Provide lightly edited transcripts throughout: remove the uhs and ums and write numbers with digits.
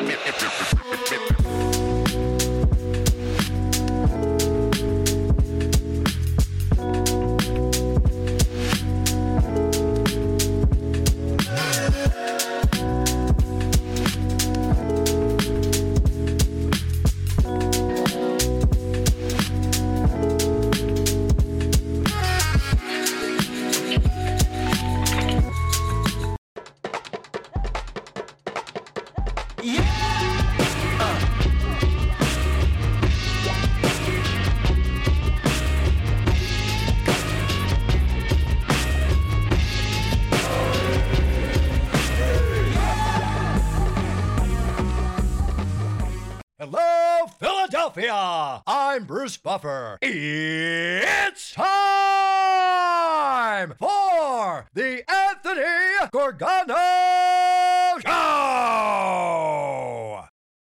Hello, Philadelphia! I'm Bruce Buffer. It's time for the Anthony Gorgano Show!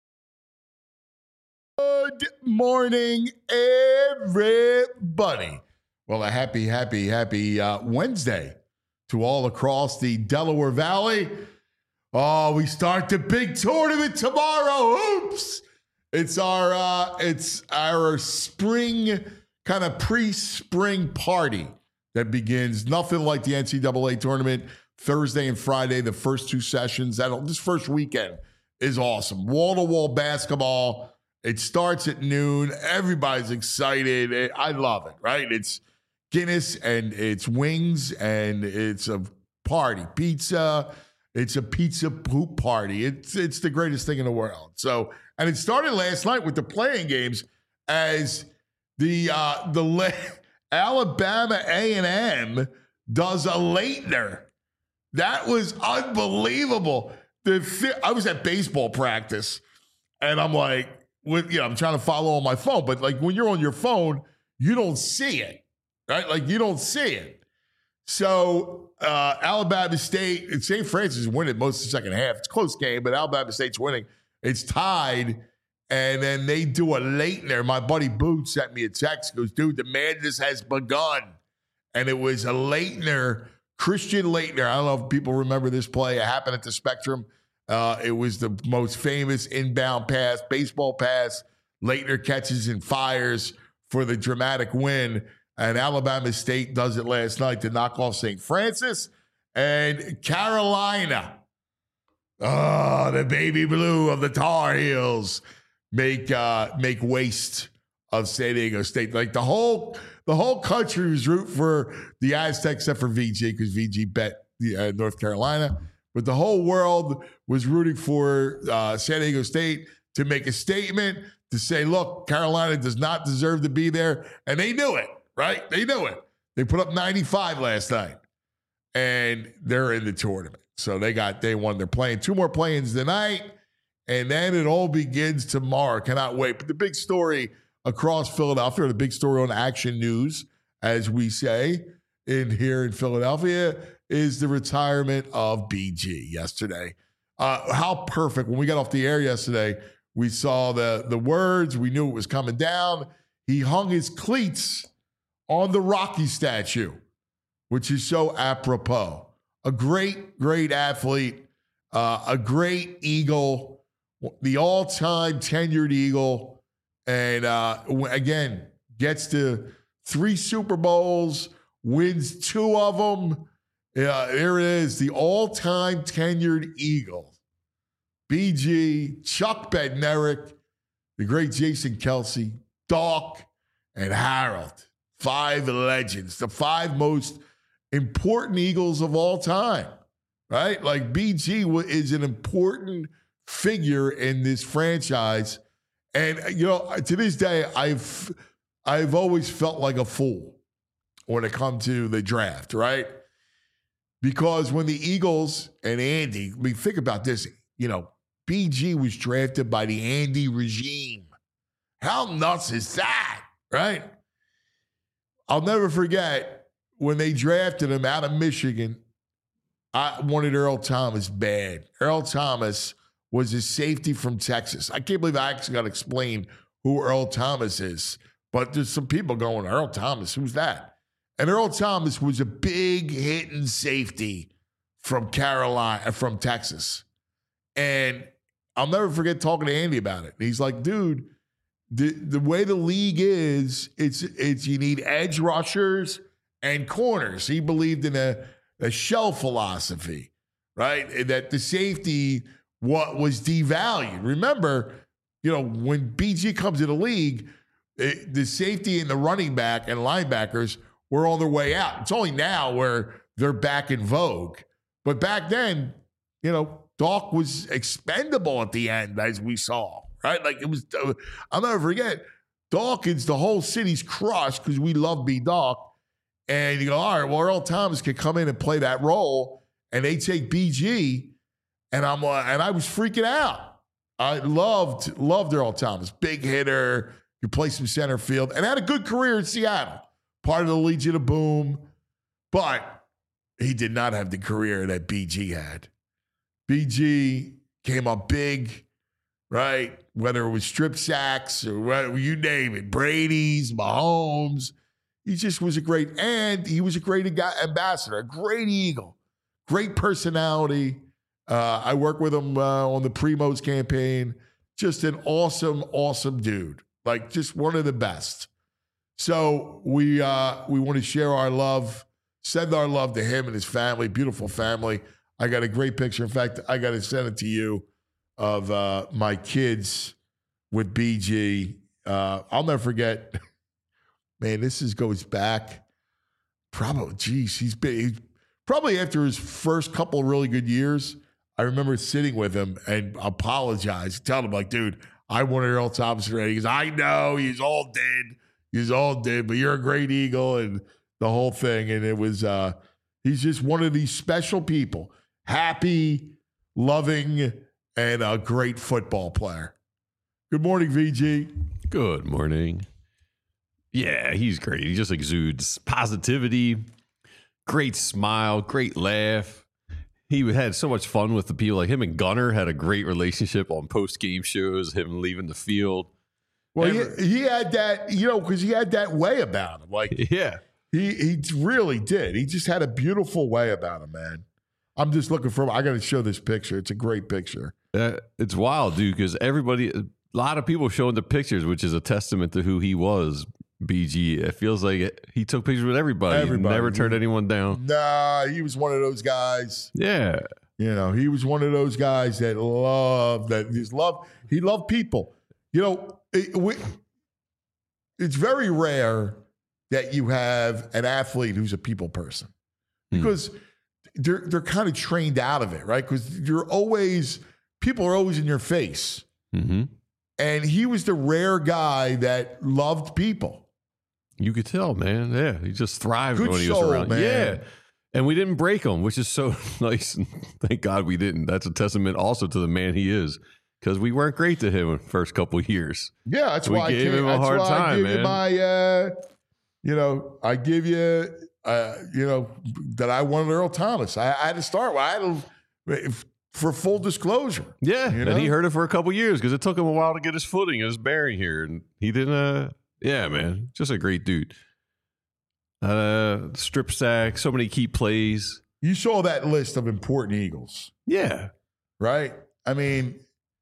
Good morning, everybody. Well, a happy Wednesday to all across the Delaware Valley. Oh, we start the big tournament tomorrow. Oops. It's our spring, kind of pre-spring party that begins. Nothing like the NCAA tournament. Thursday and Friday, the first two sessions. This first weekend is awesome. Wall-to-wall basketball. It starts at noon. Everybody's excited. I love it, right? It's Guinness and it's wings and it's a party. Pizza. It's a pizza poop party. It's the greatest thing in the world. So, and it started last night with the playing games as the Alabama A&M does a Leitner. That was unbelievable. I was at baseball practice, and I'm like, I'm trying to follow on my phone, but like when you're on your phone, you don't see it, right? Like you don't see it. So Alabama State and St. Francis is winning most of the second half. It's a close game, but Alabama State's winning. It's tied, and then they do a Leitner. My buddy Boots sent me a text. Goes, dude, the madness has begun. And it was a Leitner, Christian Leitner. I don't know if people remember this play. It happened at the Spectrum. It was the most famous inbound pass, baseball pass. Leitner catches and fires for the dramatic win. And Alabama State does it last night to knock off St. Francis. And Carolina, the baby blue of the Tar Heels, make waste of San Diego State. Like the whole country was rooting for the Aztecs except for VG because VG bet North Carolina. But the whole world was rooting for San Diego State to make a statement to say, look, Carolina does not deserve to be there. And they knew it. Right? They knew it. They put up 95 last night, and they're in the tournament. So they won. They're playing two more play-ins tonight, and then it all begins tomorrow. Cannot wait. But the big story across Philadelphia, the big story on Action News, as we say here in Philadelphia, is the retirement of BG yesterday. How perfect. When we got off the air yesterday, we saw the words. We knew it was coming down. He hung his cleats on the Rocky statue, which is so apropos. A great, great athlete, a great Eagle, the all-time tenured Eagle, and again, gets to 3 Super Bowls, wins 2 of them. There it is, the all-time tenured Eagle. BG, Chuck Bednarik, the great Jason Kelsey, Doc, and Harold. 5 legends, the 5 most important Eagles of all time, right? Like BG is an important figure in this franchise. And, to this day, I've always felt like a fool when it comes to the draft, right? Because when the Eagles and Andy, think about this, BG was drafted by the Andy regime. How nuts is that, right? I'll never forget when they drafted him out of Michigan. I wanted Earl Thomas bad. Earl Thomas was a safety from Texas. I can't believe I actually got to explain who Earl Thomas is. But there's some people going, Earl Thomas, who's that? And Earl Thomas was a big hitting safety from Texas. And I'll never forget talking to Andy about it. He's like, dude, the way the league is, it's you need edge rushers and corners. He believed in a shell philosophy, right? That the safety was devalued. Remember, when BG comes to the league, the safety and the running back and linebackers were on their way out. It's only now where they're back in vogue. But back then, Doc was expendable at the end, as we saw, right? Like it was, I'll never forget, Dawkins, the whole city's crushed because we love B-Doc. And you go, all right, well, Earl Thomas could come in and play that role, and they take BG, and I was freaking out. I loved Earl Thomas, big hitter, could play some center field, and had a good career in Seattle, part of the Legion of Boom, but he did not have the career that BG had. BG came up big, right? Whether it was strip sacks or whatever, you name it, Brady's, Mahomes. He just was he was a great ambassador, a great Eagle, great personality. I worked with him on the Primos campaign. Just an awesome, awesome dude. Like just one of the best. So we want to share our love, send our love to him and his family, beautiful family. I got a great picture. In fact, I got to send it to you of my kids with BG. I'll never forget. Man, goes back probably, he's probably after his first couple of really good years. I remember sitting with him and apologized, telling him like, dude, I wanted Earl Thomas ready. He goes, I know, he's all dead, but you're a great Eagle and the whole thing. And it was, he's just one of these special people. Happy, loving, and a great football player. Good morning, VG. Good morning. Yeah, he's great. He just exudes positivity, great smile, great laugh. He had so much fun with the people. Like him and Gunner had a great relationship on post-game shows, him leaving the field. Well, he had that, because he had that way about him. Like, yeah, he really did. He just had a beautiful way about him, man. I'm just looking for him. I got to show this picture. It's a great picture. It's wild, dude, because a lot of people showing the pictures, which is a testament to who he was. BG, it feels like he took pictures with everybody. Never turned anyone down. Nah, he was one of those guys. Yeah. He was one of those guys that he loved people. It's very rare that you have an athlete who's a people person because they're kind of trained out of it, right? Because people are always in your face. Mm-hmm. And he was the rare guy that loved people. You could tell, man. Yeah, he just thrived Good when he was soul, around. Man. Yeah, and we didn't break him, which is so nice. And thank God we didn't. That's a testament also to the man he is, because we weren't great to him in the first couple of years. Yeah, that's why we gave him a hard time, man. I give you that I wanted Earl Thomas. I had to start. For full disclosure. Yeah, and he heard it for a couple of years because it took him a while to get his footing and his bearing here, and he didn't. Yeah, man, just a great dude. Strip sack, so many key plays. You saw that list of important Eagles. Yeah, right. I mean,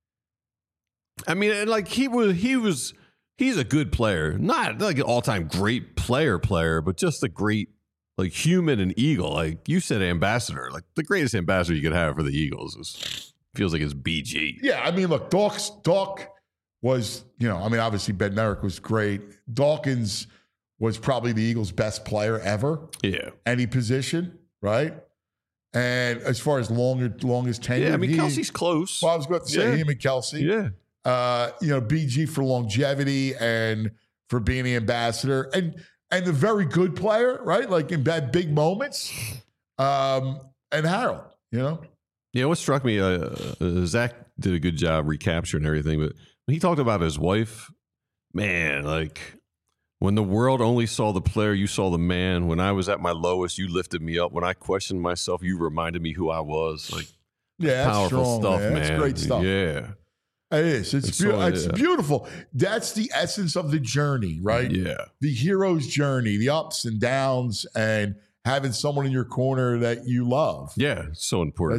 like he's a good player, not like an all-time great player, but just a great. Like human and Eagle, like you said, ambassador. Like the greatest ambassador you could have for the Eagles feels like it's BG. Yeah, I mean, look, Doc was, obviously Ben Merrick was great. Dawkins was probably the Eagles' best player ever. Yeah, any position, right? And as far as longest tenure, Kelsey's close. Well, I was going to say him and Kelsey. Yeah, BG for longevity and for being the ambassador and the very good player, right? Like in big moments. And Harold, Yeah, what struck me, Zach did a good job recapturing everything, but when he talked about his wife, man, like when the world only saw the player, you saw the man. When I was at my lowest, you lifted me up. When I questioned myself, you reminded me who I was. Like, yeah, that's powerful strong, stuff, man. That's great stuff. Yeah. It is. It's beautiful. That's the essence of the journey, right? Yeah. The hero's journey, the ups and downs, and having someone in your corner that you love. Yeah, so important.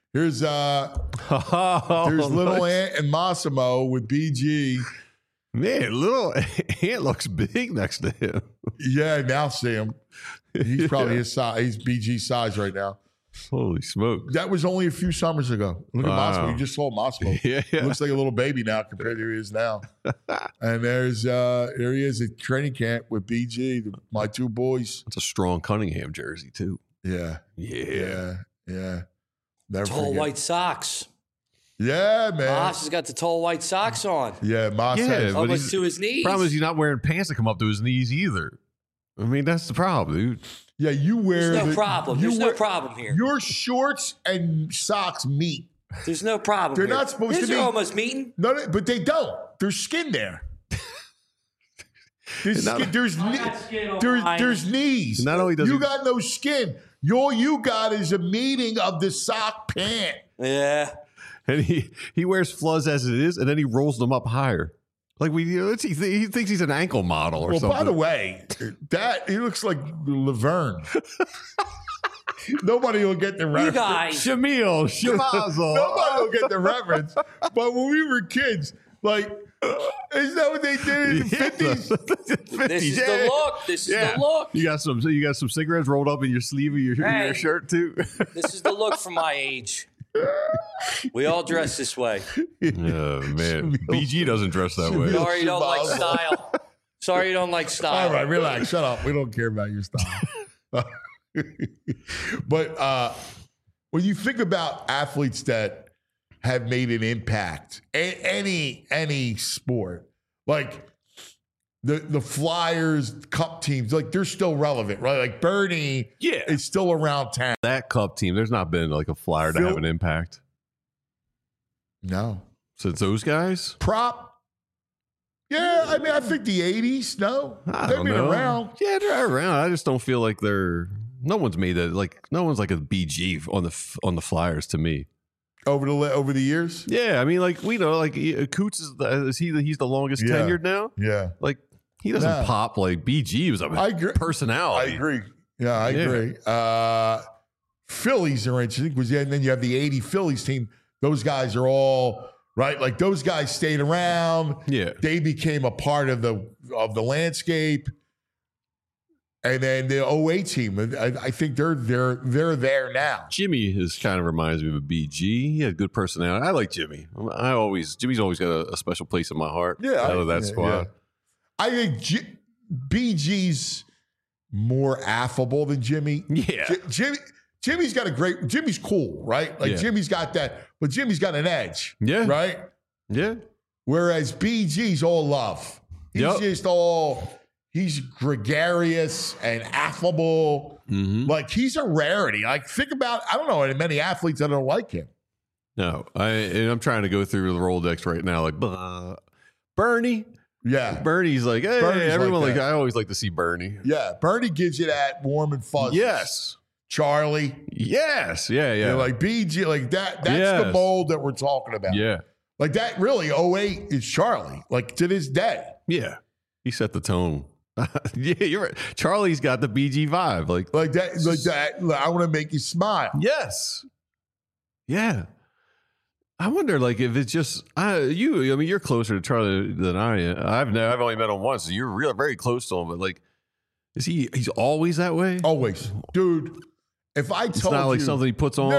Here's little Ant and Massimo with BG. Man, little Ant looks big next to him. Yeah, now see him. He's probably his size. He's BG size right now. Holy smoke. That was only a few summers ago. Look at Wow. Massimo. You just saw Massimo. Yeah. He looks like a little baby now compared to who he is now. And there he is at training camp with BG, my two boys. That's a strong Cunningham jersey, too. Yeah. Yeah. Never Tall forget. white socks. Yeah, man. Moss has got the tall white socks on. Yeah, Moss Yeah, has. but Almost he's- to his knees. Problem is he's not wearing pants that come up to his knees either. I mean, that's the problem, dude. Yeah, you wear. There's no problem. you There's no wear- problem here. Your shorts and socks meet. There's no problem. They're here. not supposed His to are be- almost meeting. No, but they don't. There's skin there. There's Not- skin. There's there's knees. Not only does you he- got no skin. All you got is a meeting of the sock pant. Yeah. And he wears fuzz as it is, and then he rolls them up higher. Like he thinks he's an ankle model or Well, something. by the way, that he looks like Laverne. Nobody will get the You reference. guys. Shamil, Shamazel. Nobody will get the reference. But when we were kids, like, is that what they did in the 50s? This is the look. This is the look. You got some cigarettes rolled up in your sleeve of your Hey. shirt too. This is the look for my age. We all dress this way. Oh man, BG doesn't dress that way. Sorry you don't like style. Sorry you don't like style. All right, relax. Shut up. We don't care about your style. But when you think about athletes that have made an impact in any sport, like the Flyers Cup teams, like they're still relevant, right? Like Bernie is still around town. That Cup team, there's not been like a Flyer to Phil- have an impact No. since those guys. Prop. Yeah, I mean, I think the 80s, no. I They've don't been know. around. Yeah, they're around. I just don't feel like no one's made that. Like no one's like a BG on the Flyers to me. Over the years? Yeah, I mean, like we know, like Coots he's the longest Yeah. tenured now. Yeah. Like he doesn't Nah. pop like BG was a I agree. I personality. agree. Yeah, I Yeah. agree. Phillies are interesting because and then you have the 80 Phillies team. Those guys are all right. Like those guys stayed around. Yeah. They became a part of the landscape. And then the 08 team, I think they're there now. Jimmy kind of reminds me of a BG. He had good personality. I like Jimmy. Jimmy's always got a special place in my heart. out of that squad. yeah. I think BG's more affable than Jimmy. Yeah. Jimmy's got Jimmy's cool, right? Like Yeah. Jimmy's got that, but Jimmy's got an edge. Yeah. Right? Yeah. Whereas BG's all love. He's Yep. just he's gregarious and affable. Mm-hmm. Like he's a rarity. Like think about, I don't know many athletes that don't like him. No, I'm trying to go through the Rolodex right now. Like Bernie. Yeah. Bernie's like, hey, Bernie's everyone like like that. I always like to see Bernie. Yeah. Bernie gives you that warm and fuzzy. Yes. Charlie. Yes. Yeah. Yeah. You're like BG, like that's the Yes. mold that we're talking about. yeah. Like that really, 08 is Charlie, like to this day. Yeah. He set the tone. Yeah, you're right. Charlie's got the BG vibe. Like I want to make you smile. yes. Yeah. I wonder, like, if it's just I mean, you're closer to Charlie than I am. I've only met him once. So you're very close to him, but like, he's always that way? Always. Dude, if I It's told not like you, something he puts on.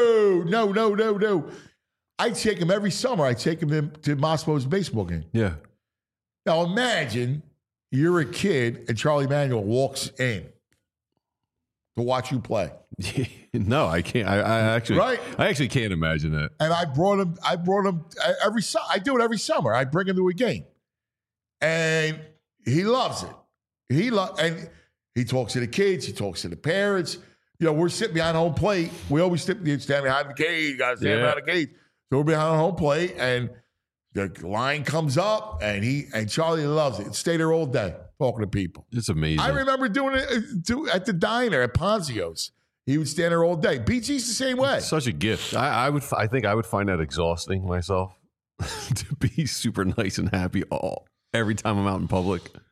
No. I take him every summer. I take him to Massimo's baseball game. Yeah. Now imagine you're a kid and Charlie Manuel walks in to watch you play. No, I can't. I actually can't imagine that. And I brought him every summer. I do it every summer. I bring him to a game. And he loves it. And he talks to the kids. He talks to the parents. You know, we're sitting behind home plate. We always stand behind the cage. You got to stand behind the cage. So we're behind home plate, and the line comes up, and Charlie loves it. Stay there all day talking to people. It's amazing. I remember doing it at the diner at Ponzio's. He would stand there all day. BG's the same way. Such a gift. I think I would find that exhausting myself to be super nice and happy every time I'm out in public.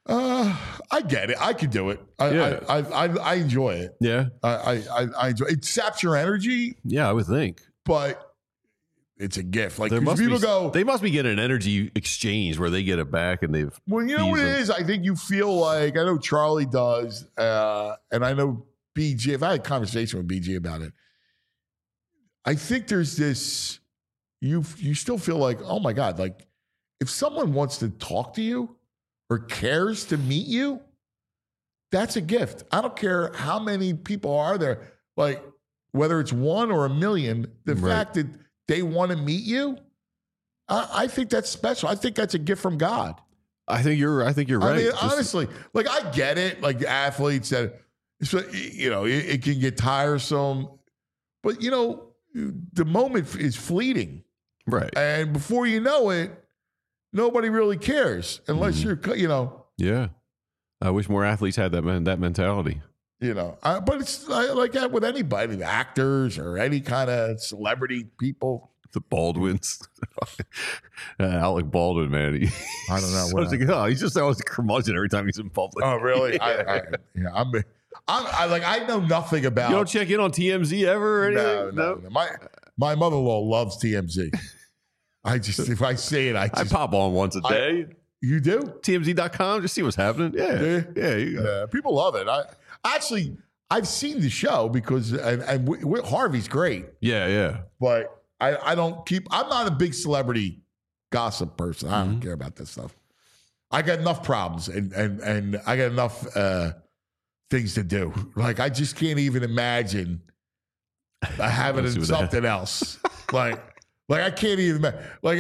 I get it. I could do it. I enjoy it. Yeah. I enjoy it. It saps your energy, Yeah, I would think. but it's a gift. Like, There 'cause must people be, go, they must be getting an energy exchange where they get it back and they've. well, you know what it Easily. is? I think you feel like, I know Charlie does, and I know BG, if I had a conversation with BG about it, I think there's this, you still feel like, oh my God, like if someone wants to talk to you or cares to meet you, that's a gift. I don't care how many people are there, like whether it's 1 or 1 million, the Right. fact that they want to meet you, I think that's special. I think that's a gift from God. I think you're right. I mean, Just- honestly, like I get it. Like the athletes that, you know, it can get tiresome, but you know, the moment is fleeting, right. and before you know it, nobody really cares unless Mm-hmm. you're, you know, Yeah. I wish more athletes had that mentality. But it's like that with anybody, actors or any kind of celebrity people. The Baldwins. Alec Baldwin, man. I don't know what He's just always a curmudgeon every time he's in public. Oh, really? Yeah. I know nothing about. You don't check in on TMZ ever or anything? No. My mother-in-law loves TMZ. If I see it, I I pop on once a day. You do? TMZ.com, just see what's happening. Yeah. Yeah. You go. Yeah, people love it. I've seen the show because Harvey's great, Yeah. but I don't keep. I'm not a big celebrity gossip person. I don't care about this stuff. I got enough problems and I got enough things to do. Like I just can't even imagine having Let's see what something else. Like I can't even like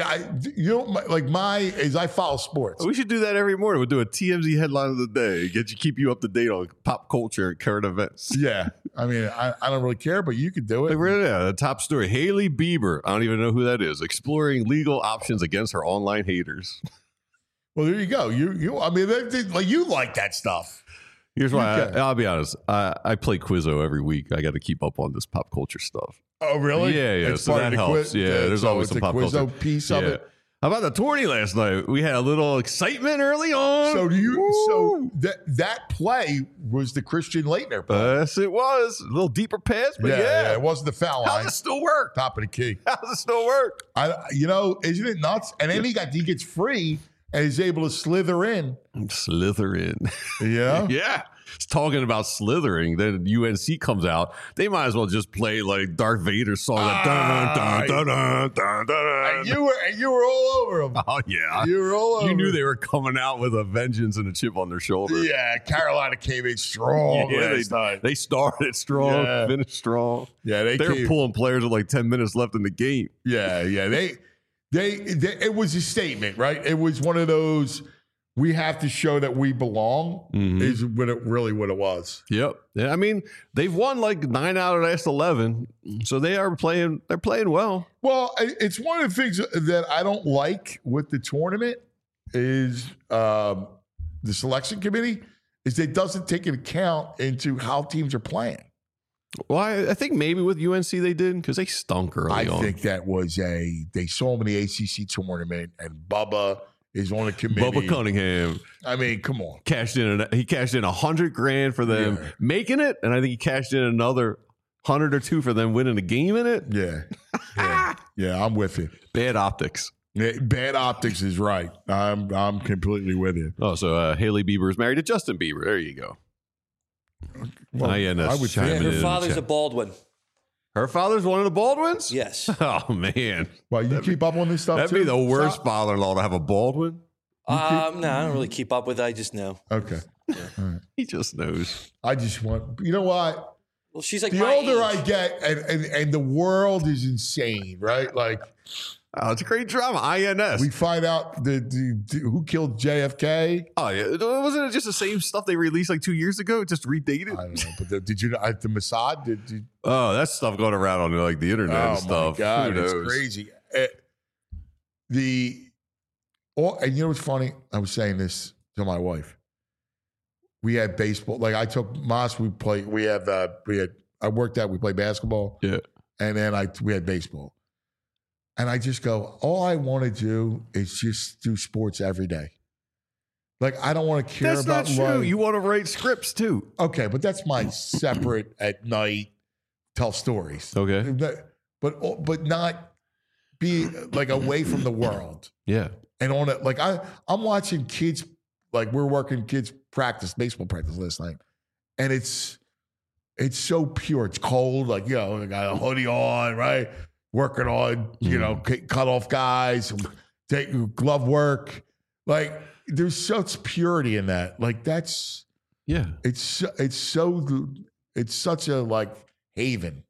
I follow sports. We should do that every morning. We'll do a TMZ headline of the day. Keep you up to date on pop culture and current events. Yeah, I mean I don't really care, but you could do it. Like, the top story: Hailey Bieber. I don't even know who that is. Exploring legal options against her online haters. Well, there you go. I mean, like you like that stuff. Here's why. Okay. I'll be honest. I play Quizzo every week. I got to keep up on this pop culture stuff. Oh, really? Yeah. It's So part that of the helps. quiz. Yeah. There's so always it's some a pop Quizzo culture piece of it. How about the tourney last night? We had a little excitement early on. So Woo! that play was the Christian Leitner play. Yes, it was a little deeper pass, but yeah. It wasn't the foul How line. does it still work? Top of the key. How does it still work? Isn't it nuts? And then he gets free and he's able to slither in. Slither in. Yeah. Yeah. It's talking about slithering. Then UNC comes out. They might as well just play like Darth Vader's song. Like, dun, dun, dun, dun, dun, dun. And you were all over him. Oh, yeah. You were all over You knew him. they were coming out with a vengeance and a chip on their shoulder. Yeah, Carolina came in strong last night. They started strong, Yeah. finished strong. Yeah, They were pulling players with like 10 minutes left in the game. Yeah. They it was a statement, right? It was one of those, we have to show that we belong, is what it was. Yep. Yeah, I mean, they've won like 9 out of the last 11, so they're playing well. Well, it's one of the things that I don't like with the tournament is the selection committee is it doesn't take an account into how teams are playing. Well, I think maybe with UNC they did because they stunk early I on. think that was they saw him in the ACC tournament, and Bubba is on the committee. Bubba Cunningham I mean, come on. cashed in $100,000 for them making it, and I think he cashed in another 100 or 2 for them winning the game in it. Yeah, I'm with you. Bad optics. Yeah, bad optics is right. I'm completely with you. Oh, so Hailey Bieber is married to Justin Bieber. There you go. Well, INS I would chiming think. in Her the father's chat. a Baldwin. Her father's one of the Baldwins? Yes. Oh, man. Well, you keep up on this stuff That'd too? be the worst Stop. father-in-law to have a Baldwin. No, I don't really keep up with it. I just know. Okay. He just knows. I just want, you know what? Well, she's like The my older age. I get, and the world is insane, right? Like Oh, it's a great drama. INS. we find out the who killed JFK. Oh, yeah. Wasn't it just the same stuff they released like 2 years ago? Just redated? I don't know, but did you know the Mossad? Did you? Oh, that's stuff going around on like the internet and Oh stuff. my God, Who it's knows? crazy. And you know what's funny? I was saying this to my wife. We had baseball. Like I took Moss. I worked out. We played basketball. Yeah. And then we had baseball. And I just go, all I want to do is just do sports every day. Like, I don't want to care That's about not true. life. You want to write scripts too. Okay, but that's my separate at night tell stories. Okay. But not be like away from the world. Yeah. And on it, like I'm watching kids, like we're working kids baseball practice last night, and it's so pure. It's cold, like I got a hoodie on, right? Working on cut off guys, take glove work. Like there's such purity in that. Like that's it's such a like haven.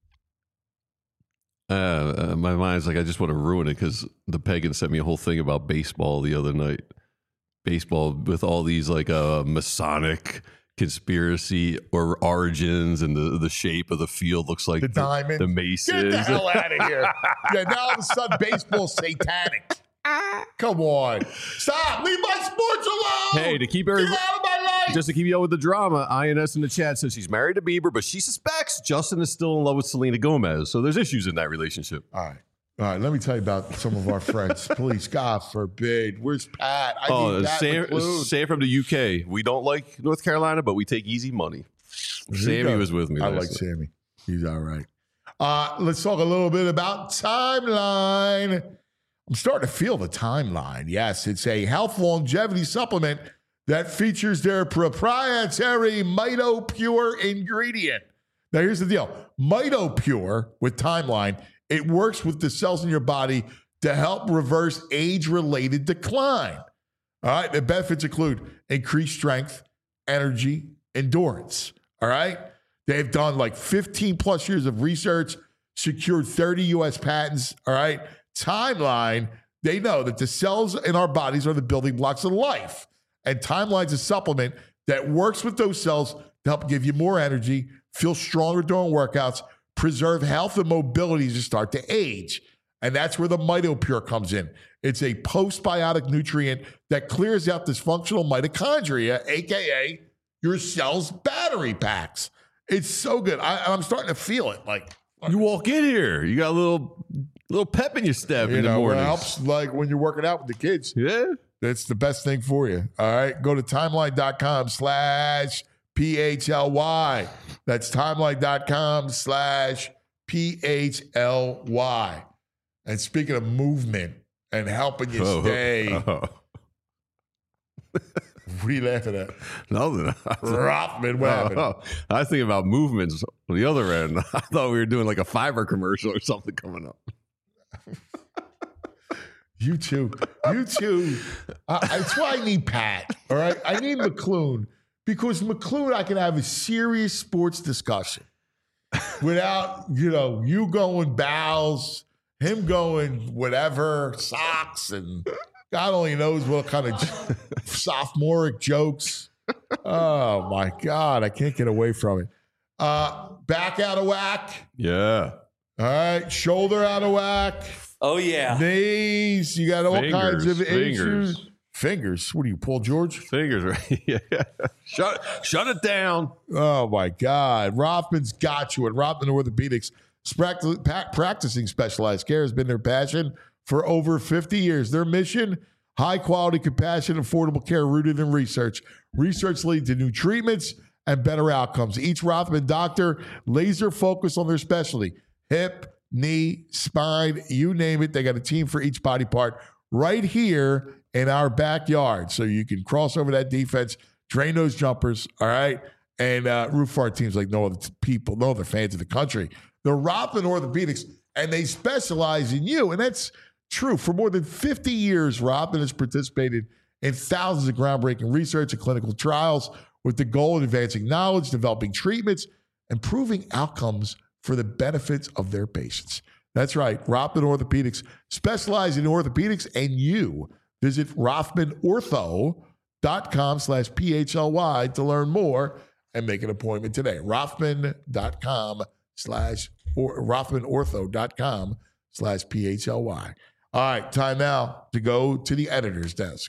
My mind's like, I just want to ruin it because the pagan sent me a whole thing about baseball the other night. Baseball with all these like Masonic conspiracy or origins, and the shape of the field looks like the diamond, the Masons. Get the hell out of here! Yeah, now all of a sudden baseball's satanic. Come on, stop! Leave my sports alone. Hey, to keep Get out of my life. Just to keep you up with the drama, INS in the chat says she's married to Bieber, but she suspects Justin is still in love with Selena Gomez. So there's issues in that relationship. All right. Let me tell you about some of our friends. Please, God forbid. Where's Pat? I need Pat McClune. Sam from the UK. We don't like North Carolina, but we take easy money. Sammy was with me. I like Sammy. He's all right. Let's talk a little bit about Timeline. I'm starting to feel the Timeline. Yes, it's a health longevity supplement that features their proprietary MitoPure ingredient. Now, here's the deal. MitoPure with Timeline, it works with the cells in your body to help reverse age-related decline. All right? The benefits include increased strength, energy, endurance. All right? They've done like 15 plus years of research, secured 30 U.S. patents. All right? Timeline, they know that the cells in our bodies are the building blocks of life. And Timeline's a supplement that works with those cells to help give you more energy, feel stronger during workouts, preserve health and mobility as you start to age. And that's where the MitoPure comes in. It's a postbiotic nutrient that clears out dysfunctional mitochondria, a.k.a. your cell's battery packs. It's so good. I'm starting to feel it. Like you walk in here, you got a little pep in your step in the morning. It helps like when you're working out with the kids. Yeah. That's the best thing for you. All right. Go to timeline.com/PHLY. That's timeline.com/PHLY. And speaking of movement and helping you stay, what are you laughing at? Nothing. Rothman, what happened? I was thinking about movements on the other end. I thought we were doing like a Fiverr commercial or something coming up. You too. That's why I need Pat. All right. I need McClune because McClune, I can have a serious sports discussion without, you going bowels, him going whatever, socks, and God only knows what kind of sophomoric jokes. Oh my God. I can't get away from it. Back out of whack. Yeah. All right. Shoulder out of whack. Oh, yeah. Knees, you got all kinds of issues. Fingers. What are you, Paul George? Fingers, right? Yeah. Shut it down. Oh, my God. Rothman's got you. And Rothman Orthopedics, practicing specialized care has been their passion for over 50 years. Their mission, high-quality, compassionate, affordable care rooted in research. Research leads to new treatments and better outcomes. Each Rothman doctor laser focus on their specialty. Hip, knee, spine, you name it. They got a team for each body part right here in our backyard. So you can cross over that defense, drain those jumpers, all right? And root for our teams like no other fans in the country. They're Rothman Orthopedics, and they specialize in you. And that's true. For more than 50 years, Rothman has participated in thousands of groundbreaking research and clinical trials with the goal of advancing knowledge, developing treatments, and improving outcomes for the benefits of their patients. That's right. Rothman Orthopedics specialize in orthopedics, and you visit rothmanortho.com/PHLY to learn more and make an appointment today. rothmanortho.com/PHLY. All right, time now to go to the editor's desk.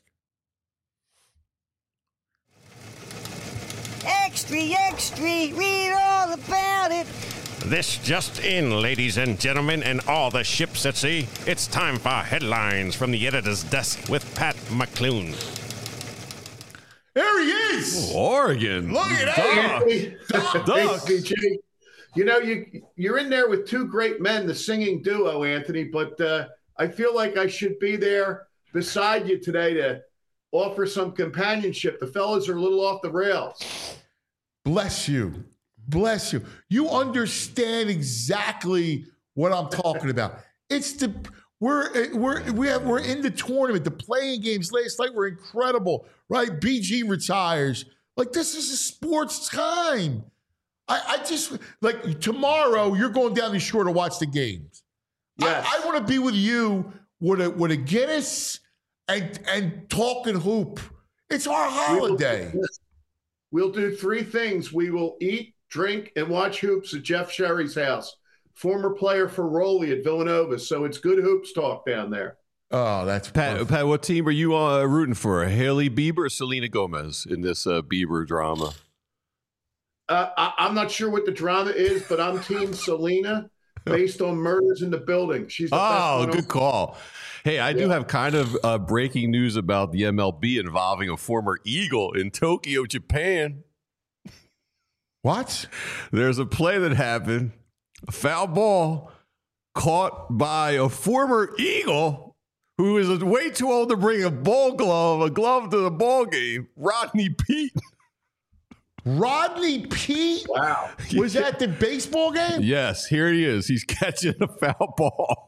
Extra, extra, read all about it. This just in, ladies and gentlemen, and all the ships at sea. It's time for headlines from the editor's desk with Pat McClune. There he is. Oregon. Look at that. Duck. Hey, CJ, you know, you're in there with two great men, the singing duo, Anthony, but I feel like I should be there beside you today to offer some companionship. The fellas are a little off the rails. Bless you. Bless you. You understand exactly what I'm talking about. It's the we're in the tournament. The playing games last night were incredible, right? BG retires. Like, this is a sports time. I just like tomorrow. You're going down the shore to watch the games. Yes. I want to be with you with a Guinness and talking hoop. It's our holiday. We'll do three things. We will eat, drink, and watch hoops at Jeff Sherry's house. Former player for Rowley at Villanova, so it's good hoops talk down there. Oh, that's Pat, what team are you rooting for? Haley Bieber or Selena Gomez in this Bieber drama? I'm not sure what the drama is, but I'm Team Selena based on Murders in the Building. She's the best one. Good call. Hey, I do have kind of breaking news about the MLB involving a former Eagle in Tokyo, Japan. What? There's a play that happened, a foul ball caught by a former Eagle who is way too old to bring a glove to the ball game, Rodney Peete. Rodney Peete? Wow. Was that the baseball game? Yes, here he is. He's catching a foul ball.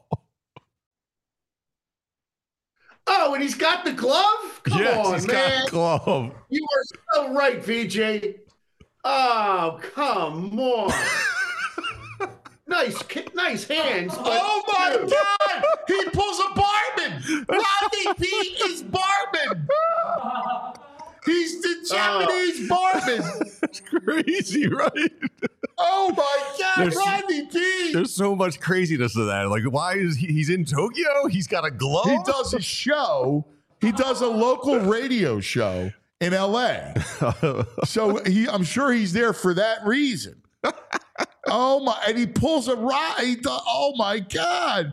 Oh, and he's got the glove? Come on, he's man. got a glove. You are so right, VJ. Oh, come on. nice hands. Oh, my God. He pulls a Barman. Rodney Peete is Barman. He's the Japanese Barman. It's crazy, right? Oh, my God. Rodney Peete. There's so much craziness to that. Like, why is he's in Tokyo? He's got a glove? He does a show. He does a local radio show in L.A. So I'm sure he's there for that reason. Oh, my. And he pulls a rod. Oh, my God.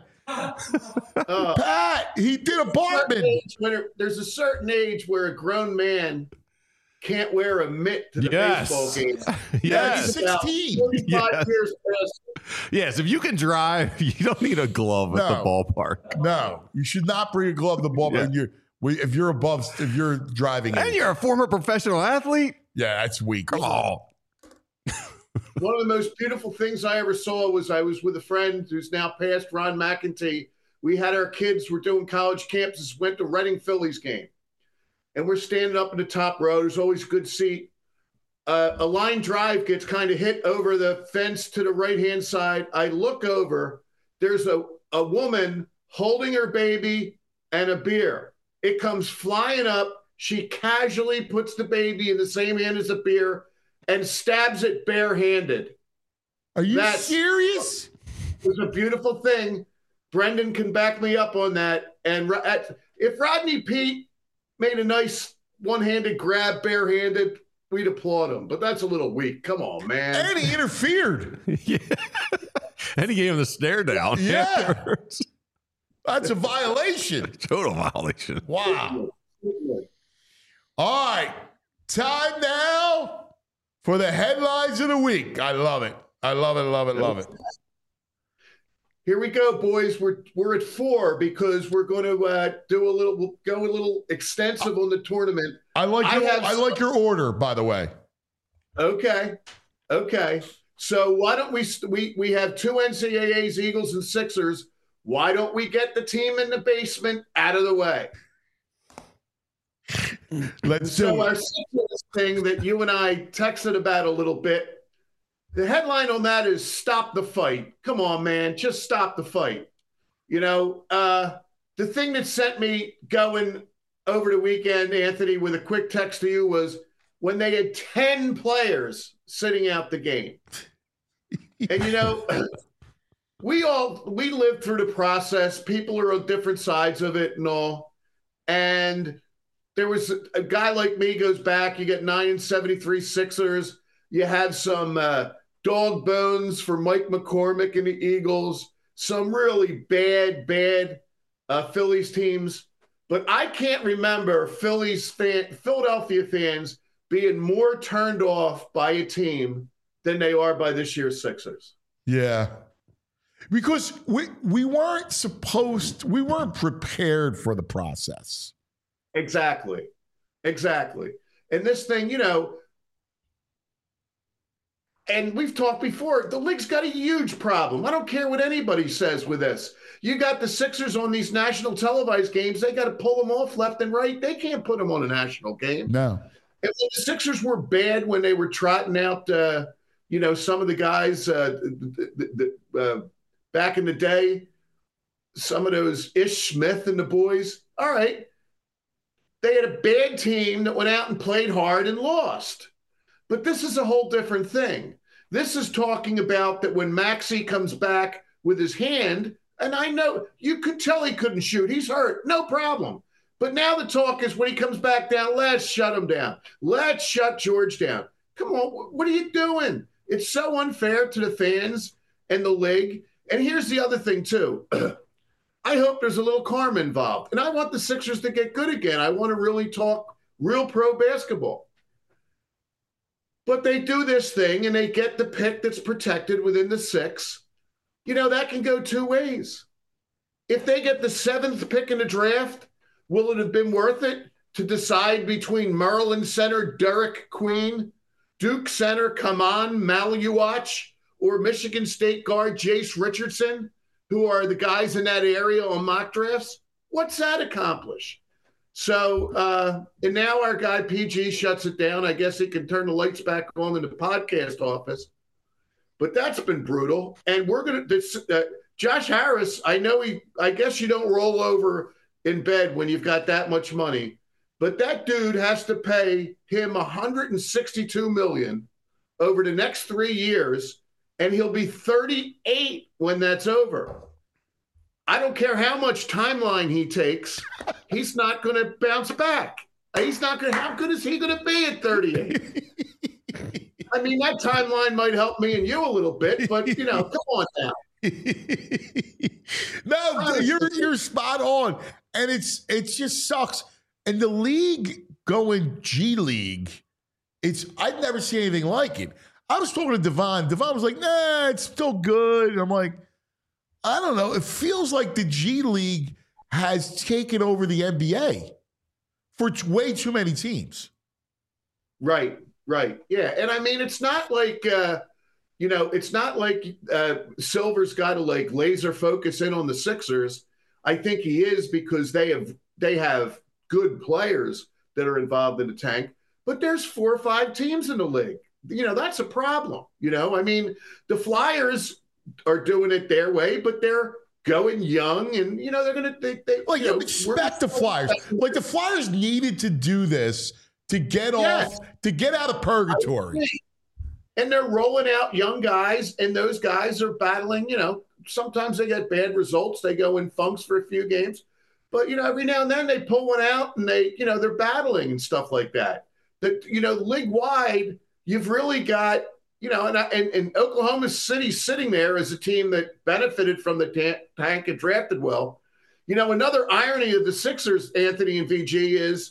Pat, he did a Barman. There's a certain age where a grown man can't wear a mitt to the baseball game. Yes. He's 16. 45 years past. Yes, if you can drive, you don't need a glove at the ballpark. No, you should not bring a glove to the ballpark. If you're driving. And you're a former professional athlete? Yeah, that's weak. Come on. One of the most beautiful things I ever saw was I was with a friend who's now passed, Ron McEntee. We had our kids, we're doing college campuses, went to Reading Phillies game. And we're standing up in the top row. There's always a good seat. A line drive gets kind of hit over the fence to the right-hand side. I look over. There's a woman holding her baby and a beer. It comes flying up. She casually puts the baby in the same hand as the beer and stabs it barehanded. Are you serious? It was a beautiful thing. Brendan can back me up on that. And if Rodney Peete made a nice one-handed grab barehanded, we'd applaud him. But that's a little weak. Come on, man. And he interfered. Yeah. And he gave him the stare down. Yeah. Afterwards. That's a violation. Total violation. Wow. All right. Time now for the headlines of the week. I love it. I love it, love it, love it. Here we go, boys. We're at 4 because we're going to go a little extensive on the tournament. I like your order, by the way. Okay. So why don't we have 2 NCAAs, Eagles and Sixers. Why don't we get the team in the basement out of the way? Let's do our it. Sixers thing that you and I texted about a little bit. The headline on that is "Stop the Fight." Come on, man, just stop the fight. You know, the thing that sent me going over the weekend, Anthony, with a quick text to you was when they had 10 players sitting out the game. And, you know, we lived through the process. People are on different sides of it and all. And there was a guy like me goes back. You get 9 and 73 Sixers. You have some dog bones for Mike McCormick and the Eagles. Some really bad Phillies teams. but I can't remember Philadelphia fans being more turned off by a team than they are by this year's Sixers. Yeah. Because we weren't prepared for the process. Exactly. And this thing, and we've talked before, the league's got a huge problem. I don't care what anybody says with this. You got the Sixers on these national televised games. They got to pull them off left and right. They can't put them on a national game. No. And the Sixers were bad when they were trotting out, some of the guys back in the day, some of those Ish Smith and the boys. All right. They had a bad team that went out and played hard and lost. But this is a whole different thing. This is talking about that when Maxey comes back with his hand, and I know you could tell he couldn't shoot. He's hurt. No problem. But now the talk is when he comes back down, let's shut him down. Let's shut George down. Come on, what are you doing? It's so unfair to the fans and the league. And here's the other thing, too. I hope there's a little karma involved. And I want the Sixers to get good again. I want to really talk real pro basketball. But they do this thing and they get the pick that's protected within the 6. That can go two ways. If they get the 7th pick in the draft, will it have been worth it to decide between Maryland center Derek Queen, Duke center Kaman Maluach, or Michigan State guard Jace Richardson, who are the guys in that area on mock drafts? What's that accomplish? So, and now our guy PG shuts it down. I guess he can turn the lights back on in the podcast office. But that's been brutal. And we're going to, Josh Harris, I guess you don't roll over in bed when you've got that much money. But that dude has to pay him $162 million over the next 3 years, and he'll be 38 when that's over. I don't care how much timeline he takes, he's not going to bounce back. He's not going to. How good is he going to be at 38? I mean, that timeline might help me and you a little bit, but come on now. No, you're spot on, and it just sucks. And the league going G League, I've never seen anything like it. I was talking to Devon. Devon was like, "Nah, it's still good." And I'm like, I don't know. It feels like the G League has taken over the NBA for way too many teams. Right. Yeah. And I mean, it's not like, it's not like Silver's got to laser focus in on the Sixers. I think he is because they have good players that are involved in the tank, but there's 4 or 5 teams in the league. That's a problem. I mean, the Flyers are doing it their way, but they're going young, and they're going to. You expect the Flyers. Like the Flyers needed to do this to get out of purgatory. And they're rolling out young guys, and those guys are battling. Sometimes they get bad results. They go in funks for a few games, but every now and then they pull one out, and they're battling and stuff like that. That league wide, you've really got. And Oklahoma City sitting there as a team that benefited from the tank and drafted well. Another irony of the Sixers, Anthony and VG, is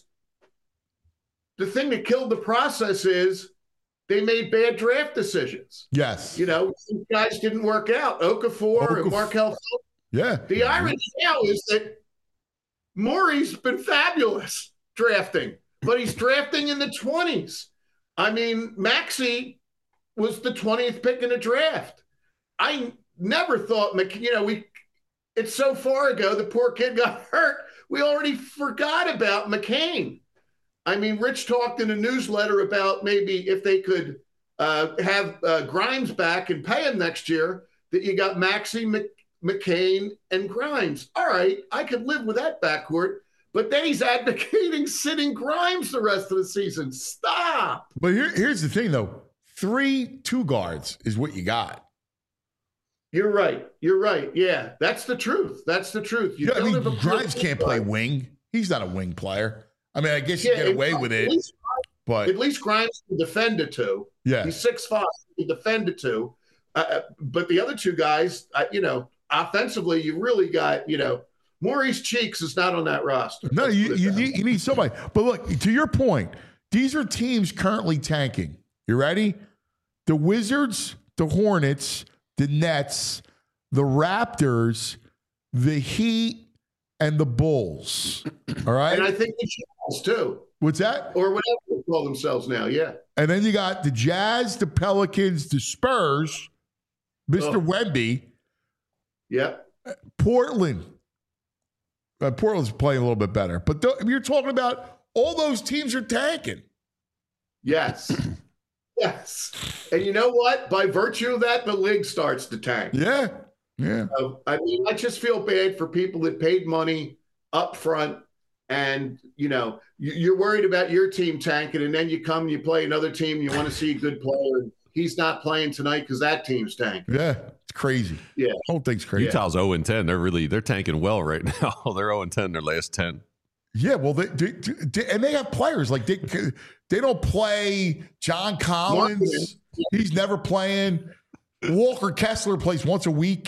the thing that killed the process is they made bad draft decisions. Yes. Some guys didn't work out. Okafor and Markelle. Yeah. The irony now is that Morey's been fabulous drafting, but he's drafting in the 20s. I mean, Maxey was the 20th pick in the draft. I never thought, it's so far ago, the poor kid got hurt. We already forgot about McCain. I mean, Rich talked in a newsletter about maybe if they could have Grimes back and pay him next year, that you got Maxey, McCain, and Grimes. All right, I could live with that backcourt. But then he's advocating sitting Grimes the rest of the season. Stop. But here's the thing, though. 3 2 guards is what you got. You're right. Yeah, that's the truth. Grimes can't play wing. He's not a wing player. I mean, I guess you get away with it. But at least Grimes can defend it too. Yeah. He's 6'5". He can defend it too. But the other 2 guys, offensively, you really got, Maurice Cheeks is not on that roster. No, you need somebody. But look, to your point, these are teams currently tanking. You ready? The Wizards, the Hornets, the Nets, the Raptors, the Heat, and the Bulls. All right? And I think the Jazz, too. What's that? Or whatever they call themselves now, yeah. And then you got the Jazz, the Pelicans, the Spurs, Mr. Wemby. Yeah. Portland. Portland's playing a little bit better. But you're talking about all those teams are tanking. Yes. Yes. And you know what? By virtue of that, the league starts to tank. Yeah. Yeah. I mean, I just feel bad for people that paid money up front and, you know, you're worried about your team tanking, and then you come and you play another team, you want to see a good player, and he's not playing tonight because that team's tanking. Yeah. It's crazy. Yeah. The whole thing's crazy. Utah's 0-10. They're tanking well right now. They're 0-10 their last 10. Yeah, well, and they have players like they don't play John Collins. He's never playing. Walker Kessler plays once a week.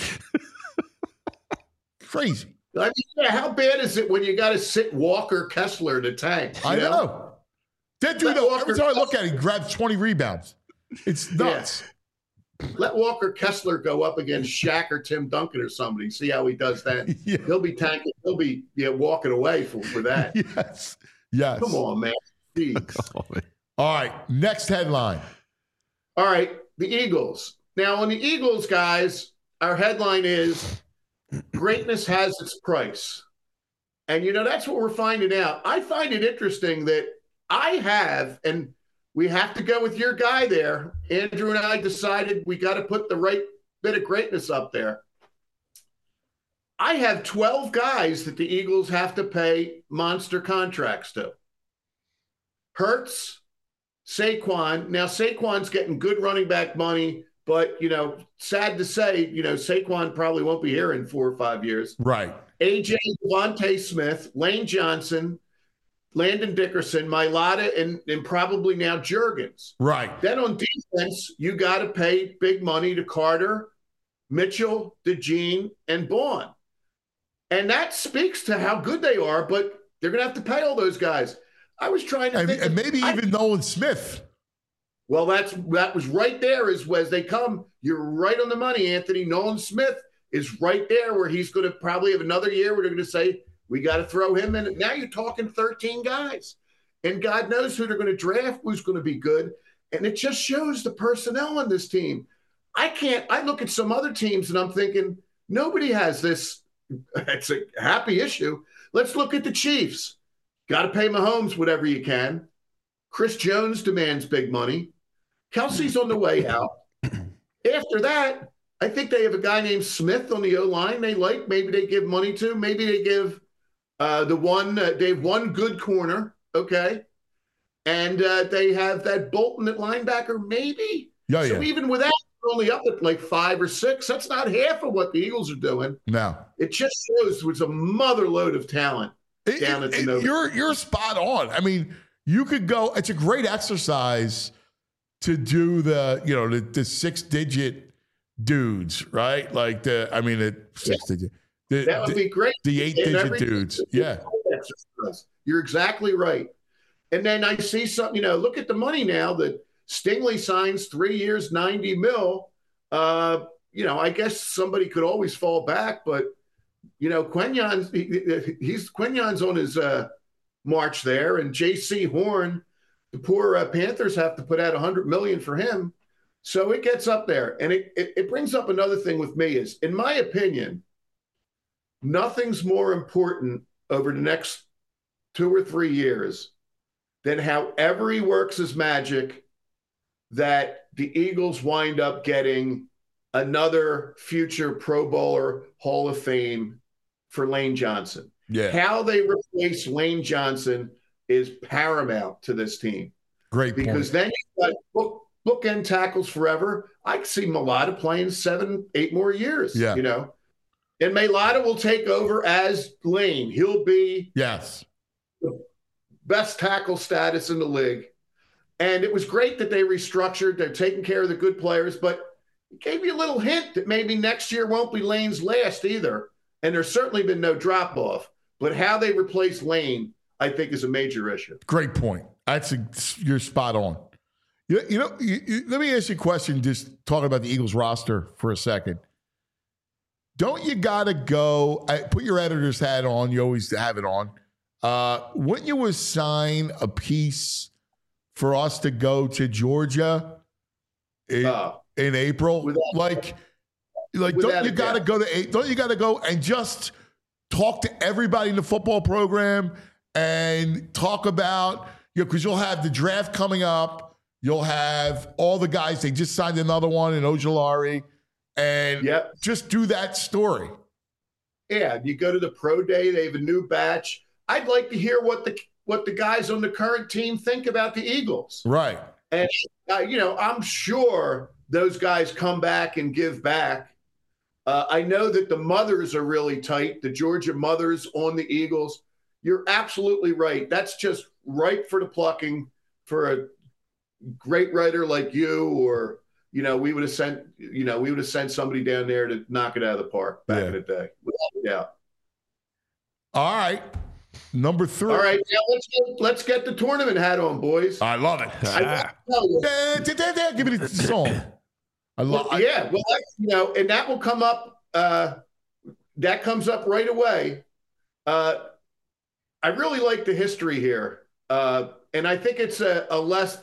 Crazy. I mean, yeah, how bad is it when you got to sit Walker Kessler to tank? I know. That dude, every time I look at him, he grabs 20 rebounds. It's nuts. Yeah. Let Walker Kessler go up against Shaq or Tim Duncan or somebody. See how he does that. Yeah. He'll be tanking. He'll be walking away for that. Yes. Yes. Come on, man. Jeez. All right. Next headline. All right. The Eagles. Now, on the Eagles, guys, our headline is greatness has its price. And, you know, that's what we're finding out. I find it interesting that I have, and we have to go with your guy there. Andrew and I decided we got to put the right bit of greatness up there. I have 12 guys that the Eagles have to pay monster contracts to. Hurts, Saquon. Now, Saquon's getting good running back money, but, you know, sad to say, you know, Saquon probably won't be here in 4 or 5 years. Right. AJ, Devontae Smith, Lane Johnson, Landon Dickerson, Mailata, and probably now Juergens. Right. Then on defense, you got to pay big money to Carter, Mitchell, DeJean, and Bond. And that speaks to how good they are, but they're going to have to pay all those guys. I was trying to think. And maybe even Nolan Smith. Well, that was right there as they come. You're right on the money, Anthony. Nolan Smith is right there where he's going to probably have another year where they're going to say, we got to throw him in. Now you're talking 13 guys. And God knows who they're going to draft, who's going to be good. And it just shows the personnel on this team. I look at some other teams and I'm thinking, nobody has this. It's a happy issue. Let's look at the Chiefs. Got to pay Mahomes whatever you can. Chris Jones demands big money. Kelsey's on the way out. After that, I think they have a guy named Smith on the O-line they like. Maybe they give money to. Maybe they give they have one good corner, okay? And they have that Bolton at linebacker, maybe. Yeah, so even with that, they're only up at like 5 or 6. That's not half of what the Eagles are doing. No. It just shows there's a mother load of talent down at the Nova. You're spot on. I mean, you could go. It's a great exercise to do the 6-digit dudes, right? Like the 6-digit. That would be great. The 8-digit dudes. Yeah. You're exactly right. And then I see something, look at the money now that Stingley signs 3 years, $90 million. I guess somebody could always fall back, but Quinyon's on his march there, and J.C. Horn, the poor Panthers have to put out $100 million for him. So it gets up there. And it brings up another thing with me is, in my opinion, nothing's more important over the next 2 or 3 years than however he works his magic that the Eagles wind up getting another future Pro Bowler Hall of Fame for Lane Johnson. Yeah. How they replace Lane Johnson is paramount to this team. Great point. Because then you've got bookend tackles forever. I can see Mailata playing 7-8 more years. Yeah. And Mailata will take over as Lane. He'll be the best tackle status in the league. And it was great that they restructured. They're taking care of the good players, but it gave you a little hint that maybe next year won't be Lane's last either. and there's certainly been no drop off. But how they replace Lane, I think, is a major issue. Great point. You're spot on. Let me ask you a question, just talking about the Eagles roster for a second. Don't you got to go, put your editor's hat on, you always have it on. Wouldn't you assign a piece for us to go to Georgia in April? Don't you got to go and just talk to everybody in the football program and talk about, because you'll have the draft coming up. You'll have all the guys. They just signed another one in Ojulari. And just do that story. Yeah, you go to the pro day. They have a new batch. I'd like to hear what the guys on the current team think about the Eagles. Right. And, I'm sure those guys come back and give back. I know that the mothers are really tight, the Georgia mothers on the Eagles. You're absolutely right. That's just ripe for the plucking for a great writer like you, or we would have sent somebody down there to knock it out of the park back in the day, without a doubt. All right, number 3. All right, now let's get the tournament hat on, boys. I love it. Give me the song. And that will come up. That comes up right away. I really like the history here, and I think it's a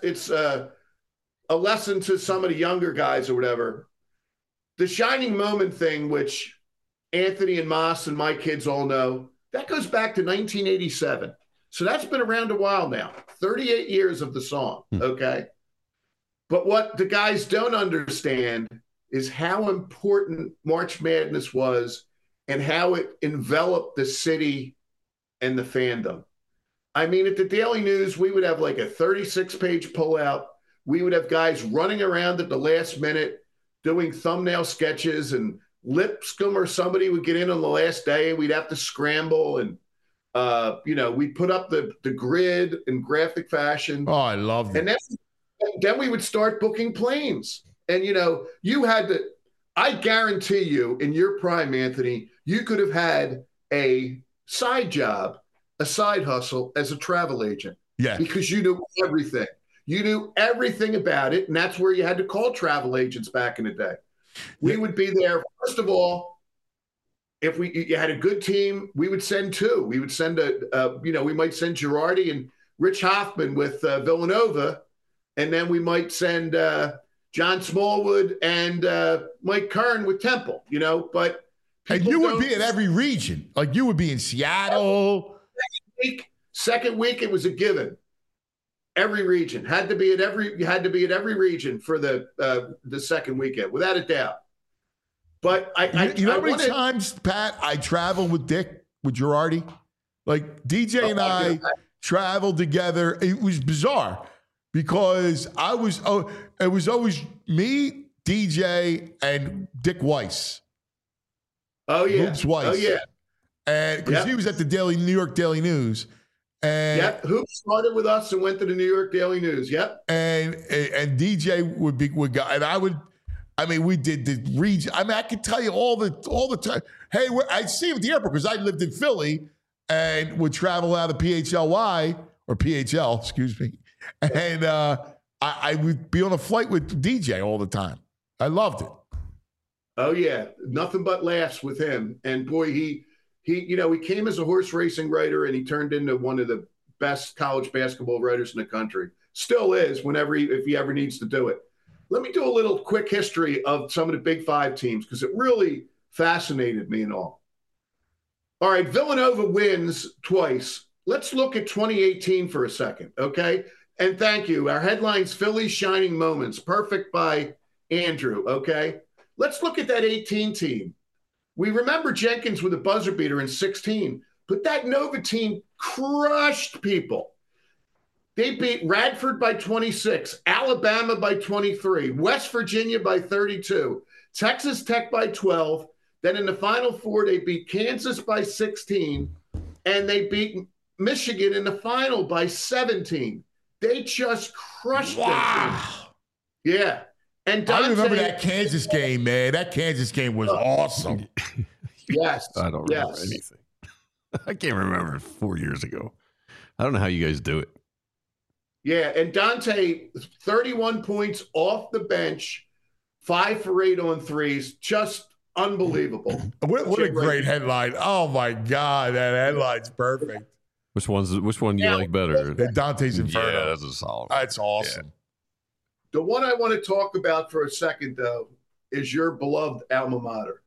lesson to some of the younger guys or whatever. The shining moment thing, which Anthony and Moss and my kids all know, that goes back to 1987. So that's been around a while now, 38 years of the song, okay? But what the guys don't understand is how important March Madness was and how it enveloped the city and the fandom. I mean, at the Daily News, we would have like a 36-page pullout. We would have guys running around at the last minute doing thumbnail sketches, and Lipscomb or somebody would get in on the last day and we'd have to scramble. And, we'd put up the grid in graphic fashion. Oh, I love it. And then we would start booking planes. And, you had to, I guarantee you in your prime, Anthony, you could have had a side job, a side hustle as a travel agent. Yeah. Because you knew everything. You knew everything about it, and that's where you had to call travel agents back in the day. We would be there. First of all, if you had a good team, we would send 2. We would send we might send Girardi and Rich Hoffman with Villanova, and then we might send John Smallwood and Mike Kern with Temple. But and you would be in every region. Like you would be in Seattle. Second week, it was a given. Every region had to be at every region for the second weekend, without a doubt. But how many times, Pat, I traveled with Dick, with Girardi? Like DJ and I traveled together. It was bizarre because it was always me, DJ, and Dick Weiss. Oh yeah, Hoops Weiss. Oh yeah, and because he was at the New York Daily News. And Hoops started with us and went to the New York Daily News. Yep. And DJ would go, and we did the region. I could tell you all the time. Hey, I'd see him at the airport because I lived in Philly and would travel out of PHLY or PHL, excuse me. And I would be on a flight with DJ all the time. I loved it. Oh yeah, nothing but laughs with him. And boy, he came as a horse racing writer, and he turned into one of the best college basketball writers in the country. Still is, if he ever needs to do it. Let me do a little quick history of some of the Big Five teams because it really fascinated me and all. All right, Villanova wins twice. Let's look at 2018 for a second, okay? And thank you. Our headline's Philly's Shining Moments, perfect by Andrew, okay? Let's look at that 18 team. We remember Jenkins with a buzzer beater in 16, but that Nova team crushed people. They beat Radford by 26, Alabama by 23, West Virginia by 32, Texas Tech by 12. Then in the Final Four, they beat Kansas by 16, and they beat Michigan in the final by 17. They just crushed them. Yeah. And I remember that Kansas game, man. That Kansas game was awesome. Yes. I don't remember Yes. anything. I can't remember 4 years ago. I don't know how you guys do it. Yeah, and Dante, 31 points off the bench, 5 for 8 on threes, just unbelievable. What a great headline. Oh, my God. That headline's perfect. Which one do you like better? The Dante's Inferno. Yeah, that's a solid. That's awesome. The one I want to talk about for a second, though, is your beloved alma mater,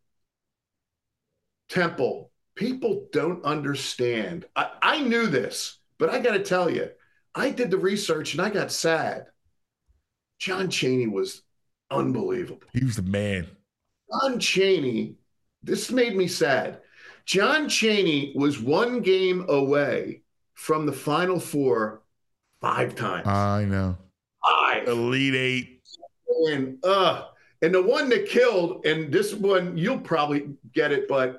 Temple. People don't understand. I knew this, but I got to tell you, I did the research and I got sad. John Chaney was unbelievable. He was the man. John Chaney, this made me sad. John Chaney was 1 game away from the Final Four 5 times. I know. 5. Elite 8. And the one that killed, and this one, you'll probably get it, but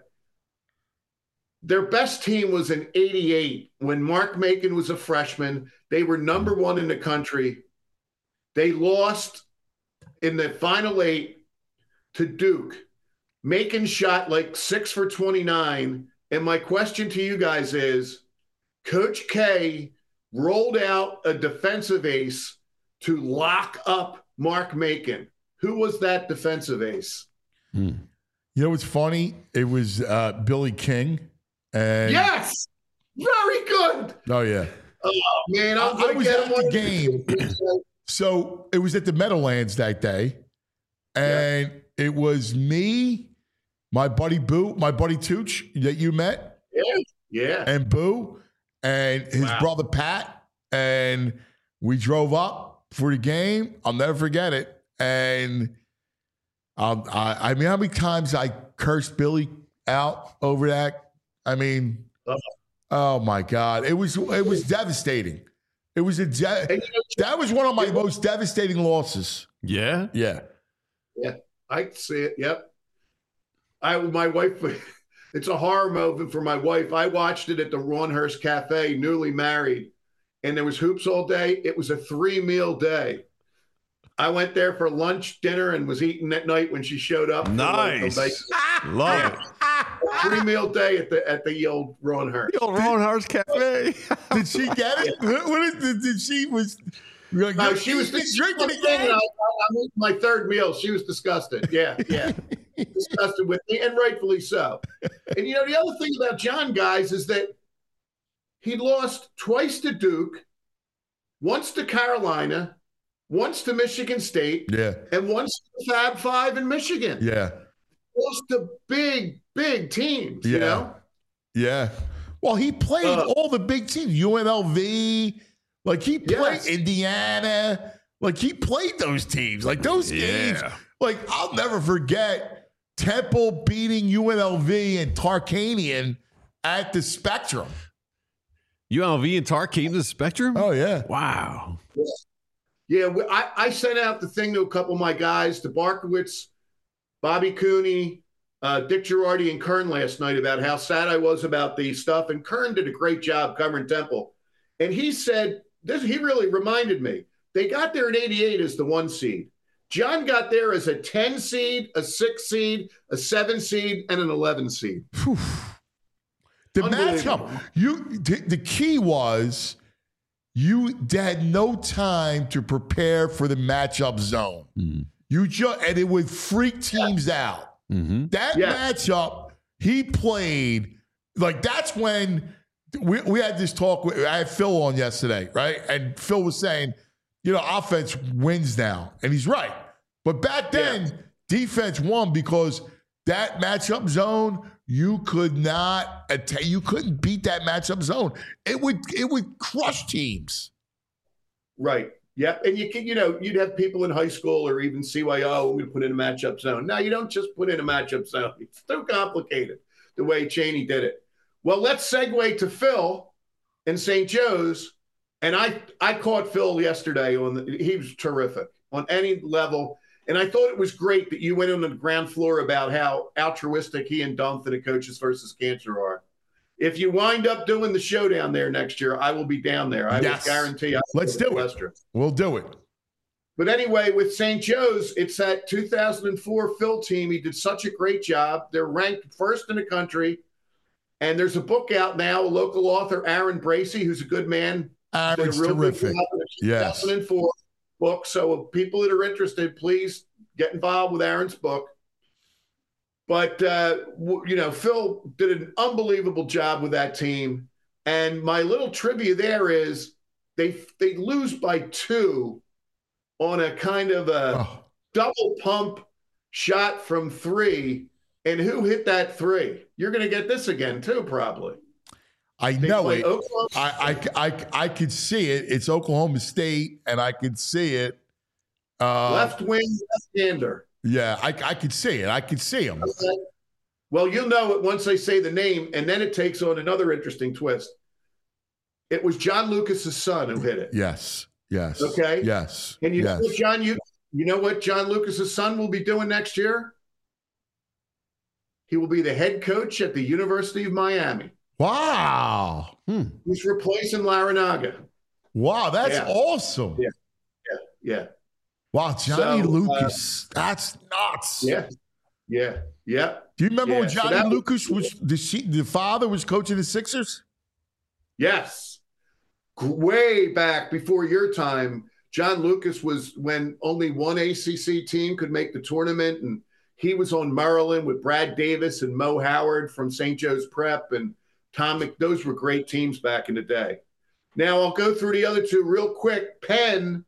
their best team was in 88 when Mark Macon was a freshman. They were number 1 in the country. They lost in the Final 8 to Duke. Macon shot like 6 for 29. And my question to you guys is, Coach K rolled out a defensive ace to lock up Mark Macon. Who was that defensive ace? You know what's funny? It was Billy King. And Yes! Very good. Oh, yeah. Oh, man. I was at the game. So it was at the Meadowlands that day. And it was me, my buddy Boo, my buddy Tooch that you met. Yeah. And Boo and his brother Pat. And we drove up for the game. I'll never forget it. And I mean, how many times I cursed Billy out over that? I mean, oh my God. It was devastating. It was that was one of my most devastating losses. Yeah? Yeah. Yeah, I see it. Yep. My wife, it's a horror movie for my wife. I watched it at the Ronhurst Cafe, newly married, and there was hoops all day. It was a 3-meal day. I went there for lunch, dinner, and was eating that night when she showed up. Nice. Love it. 3-meal day at the old Ronhurst. The old Ronhurst Cafe. Did she get it? Did she was? No, she was drinking again. I'm eating my 3rd meal. She was disgusted. Yeah. Disgusted with me, and rightfully so. And the other thing about John, guys, is that he lost twice to Duke, once to Carolina, once to Michigan State, and once to the Fab Five in Michigan. Yeah. Lost to big teams, you know? Yeah. Well, he played all the big teams, UNLV, like he played Indiana, like he played those teams, like those games. Like I'll never forget Temple beating UNLV and Tarkanian at the Spectrum. UNLV and Tarkanian the Spectrum? Oh, yeah. Wow. Yeah, I sent out the thing to a couple of my guys, to Barkowitz, Bobby Cooney, Dick Girardi, and Kern last night about how sad I was about the stuff. And Kern did a great job covering Temple. And he said, he really reminded me, they got there in 88 as the 1 seed. John got there as a 10 seed, a 6 seed, a 7 seed, and an 11 seed. The matchup, the key was you had no time to prepare for the matchup zone. And it would freak teams out. That matchup, he played, like that's when we had this talk. I had Phil on yesterday, right? And Phil was saying, offense wins now. And he's right. But back then, defense won because that matchup zone, you couldn't beat that matchup zone. It would crush teams. Right. Yeah. And you'd have people in high school or even CYO, we put in a matchup zone. No, you don't just put in a matchup zone. It's too complicated the way Chaney did it. Well, let's segue to Phil and St. Joe's. And I caught Phil yesterday he was terrific on any level. And I thought it was great that you went on the ground floor about how altruistic he and Dumph and the Coaches versus Cancer are. If you wind up doing the show down there next year, I will be down there. I will guarantee. Let's do it. We'll do it. But anyway, with St. Joe's, it's that 2004 Phil team. He did such a great job. They're ranked first in the country. And there's a book out now, a local author, Aaron Bracey, who's a good man. Aaron's terrific. Yes. 2004 book. So people that are interested, please get involved with Aaron's book. But, Phil did an unbelievable job with that team. And my little trivia there is they lose by 2 on a kind of a double pump shot from 3. And who hit that 3? You're going to get this again, too, probably. I know it. I could see it. It's Oklahoma State, and I could see it. Left wing, left-hander. Yeah, I could see it. I could see him. Okay. Well, you'll know it once I say the name, and then it takes on another interesting twist. It was John Lucas's son who hit it. Yes. Okay. Yes. And you know what John Lucas's son will be doing next year? He will be the head coach at the University of Miami. Wow. He's replacing Larinaga. Wow, that's awesome. Yeah. Wow, Johnny Lucas. That's nuts. Yeah. Do you remember when Johnny Lucas was the father was coaching the Sixers? Yes. Way back before your time, John Lucas was when only one ACC team could make the tournament, and he was on Maryland with Brad Davis and Mo Howard from St. Joe's Prep and Tom. Those were great teams back in the day. Now I'll go through the other two real quick. Penn,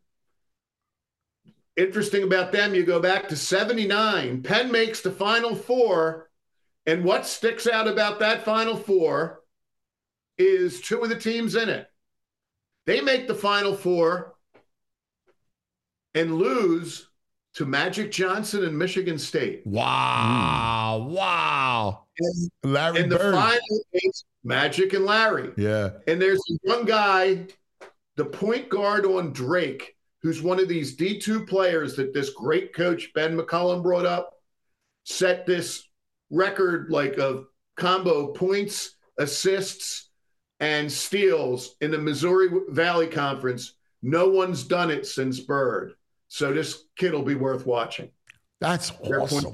interesting about them, you go back to 79. Penn makes the Final Four, and what sticks out about that Final Four is 2 of the teams in it. They make the Final Four and lose to Magic Johnson and Michigan State. Wow. Larry and Bird. The final is Magic and Larry. Yeah. And there's one guy, the point guard on Drake, who's one of these D2 players that this great coach, Ben McCullum, brought up, set this record of combo points, assists, and steals in the Missouri Valley Conference. No one's done it since Bird. So this kid will be worth watching. That's awesome.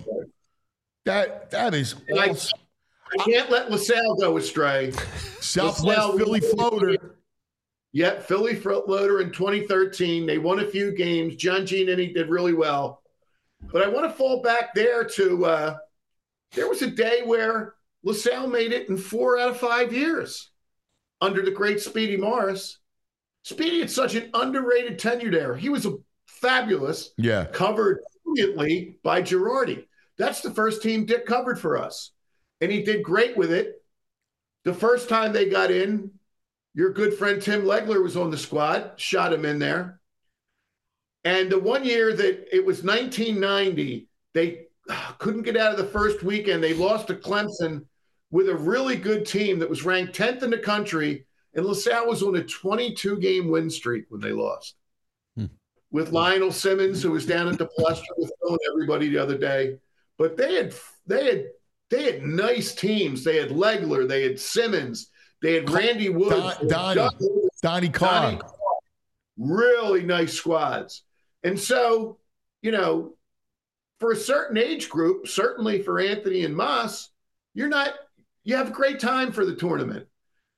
That is awesome. I can't let LaSalle go astray. Southwest Philly floater. Yeah, Philly floater in 2013. They won a few games. John Giannini did really well. But I want to fall back there to there was a day where LaSalle made it in 4 out of 5 years under the great Speedy Morris. Speedy had such an underrated tenure there. He was fabulous. Yeah. Covered brilliantly by Girardi. That's the first team Dick covered for us. And he did great with it. The first time they got in, your good friend Tim Legler was on the squad, shot him in there. And the one year that it was 1990, they couldn't get out of the first weekend. They lost to Clemson with a really good team that was ranked 10th in the country. And LaSalle was on a 22-game win streak when they lost. With Lionel Simmons, who was down at the Palestra with Phil and everybody the other day. But they had nice teams. They had Legler, they had Simmons, they had Randy Woods, Donnie Carr. Really nice squads. And so, for a certain age group, certainly for Anthony and Moss, you have a great time for the tournament.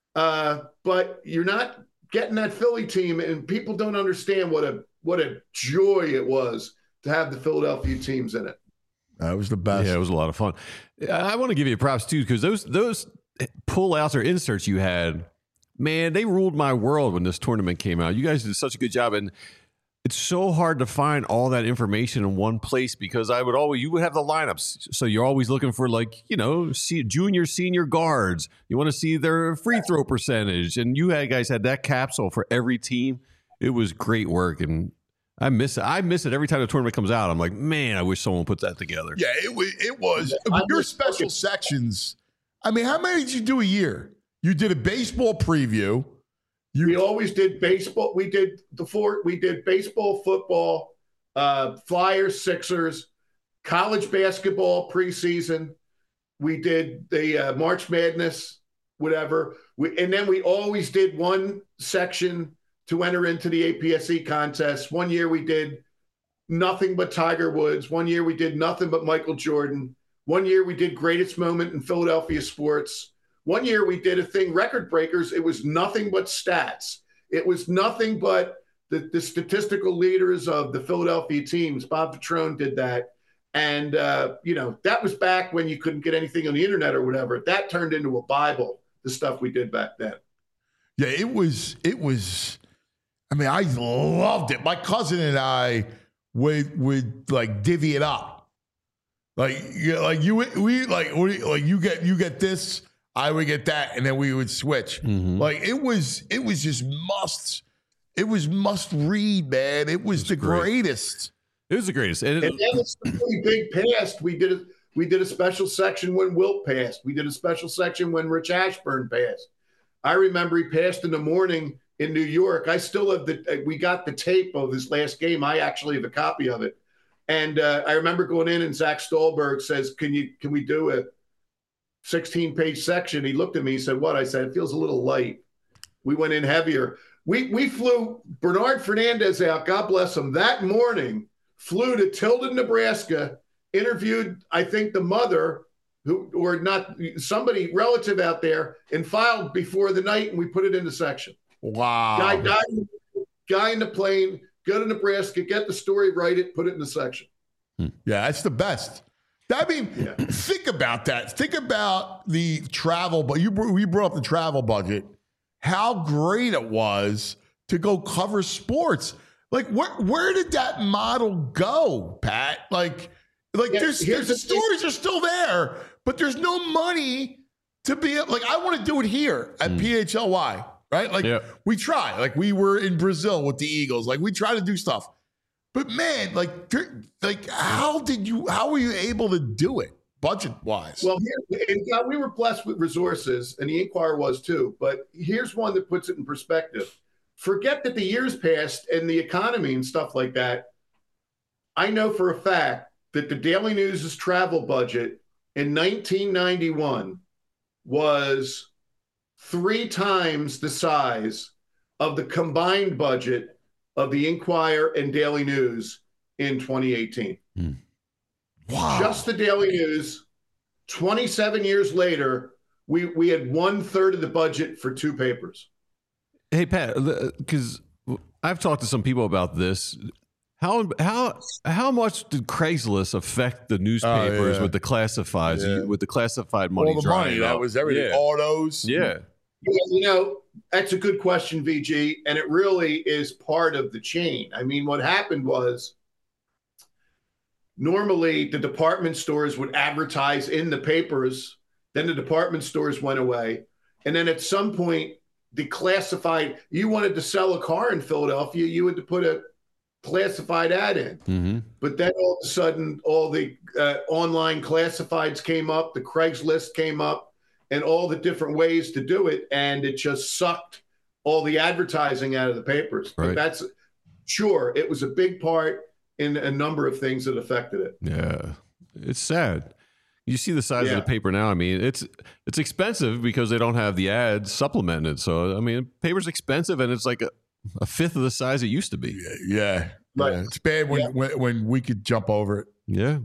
But you're not getting that Philly team, and people don't understand what a joy it was to have the Philadelphia teams in it. That was the best. Yeah, it was a lot of fun. I want to give you props too, because those pull-outs or inserts you had, man, they ruled my world when this tournament came out. You guys did such a good job, and it's so hard to find all that information in one place because you would have the lineups, so you're always looking for junior, senior guards. You want to see their free throw percentage, and you guys had that capsule for every team. It was great work, and I miss it. I miss it every time the tournament comes out. I'm like, man, I wish someone put that together. Yeah, it was. Your special sections. I mean, how many did you do a year? You did a baseball preview. We always did baseball. We did baseball, football, Flyers, Sixers, college basketball preseason. We did the March Madness, whatever. And then we always did one section to enter into the APSE contest. One year we did nothing but Tiger Woods. One year we did nothing but Michael Jordan. One year we did greatest moment in Philadelphia sports. One year we did a thing, record breakers. It was nothing but stats. It was nothing but the statistical leaders of the Philadelphia teams. Bob Petrone did that. And, that was back when you couldn't get anything on the internet or whatever. That turned into a Bible, the stuff we did back then. Yeah, it was, I mean, I loved it. My cousin and I would like divvy it up. You get this, I would get that, and then we would switch. Mm-hmm. Like it was just must read, man. It was the greatest. It was the greatest. And then it's the really big past. We did a special section when Wilt passed. We did a special section when Rich Ashburn passed. I remember he passed in the morning in New York. I still have we got the tape of his last game. I actually have a copy of it. And I remember going in and Zach Stolberg says, can we do a 16-page section? He looked at me, he said, what? I said, it feels a little light. We went in heavier. We flew Bernard Fernandez out, God bless him, that morning, flew to Tilden, Nebraska, interviewed, I think, the mother, or not, somebody relative out there, and filed before the night, and we put it in the section. Wow. Guy in the plane, go to Nebraska, get the story, write it, put it in the section. Yeah, that's the best. I mean, Think about that. Think about the travel, but we brought up the travel budget. How great it was to go cover sports. Like, where did that model go, Pat? The stories are still there, but there's no money to be like. I want to do it here at PHLY, right? We try. Like we were in Brazil with the Eagles. Like we try to do stuff, but man, how were you able to do it budget wise? Well, we were blessed with resources, and the Inquirer was too. But here's one that puts it in perspective. Forget that the years passed and the economy and stuff like that. I know for a fact that the Daily News' travel budget in 1991 was 3 times the size of the combined budget of the Inquirer and Daily News in 2018. Wow. Just the Daily News. 27 years later, we had 1/3 of the budget for 2 papers. Hey, Pat, because I've talked to some people about this. How much did Craigslist affect the newspapers with the classifieds, with the classified money? All the money, that was everything. Autos. Yeah. That's a good question, VG, and it really is part of the chain. I mean, what happened was normally the department stores would advertise in the papers, then the department stores went away, and then at some point, the classified, you wanted to sell a car in Philadelphia, you had to put a classified ad in. Mm-hmm. But then all of a sudden, all the online classifieds came up, the Craigslist came up, and all the different ways to do it. And it just sucked all the advertising out of the papers. Right. But that's sure, it was a big part in a number of things that affected it. Yeah. It's sad. You see the size of the paper now. I mean, it's expensive because they don't have the ads supplemented. So, I mean, paper's expensive and it's like a fifth of the size it used to be. Yeah. Right. Yeah. It's bad when we could jump over it. Yeah.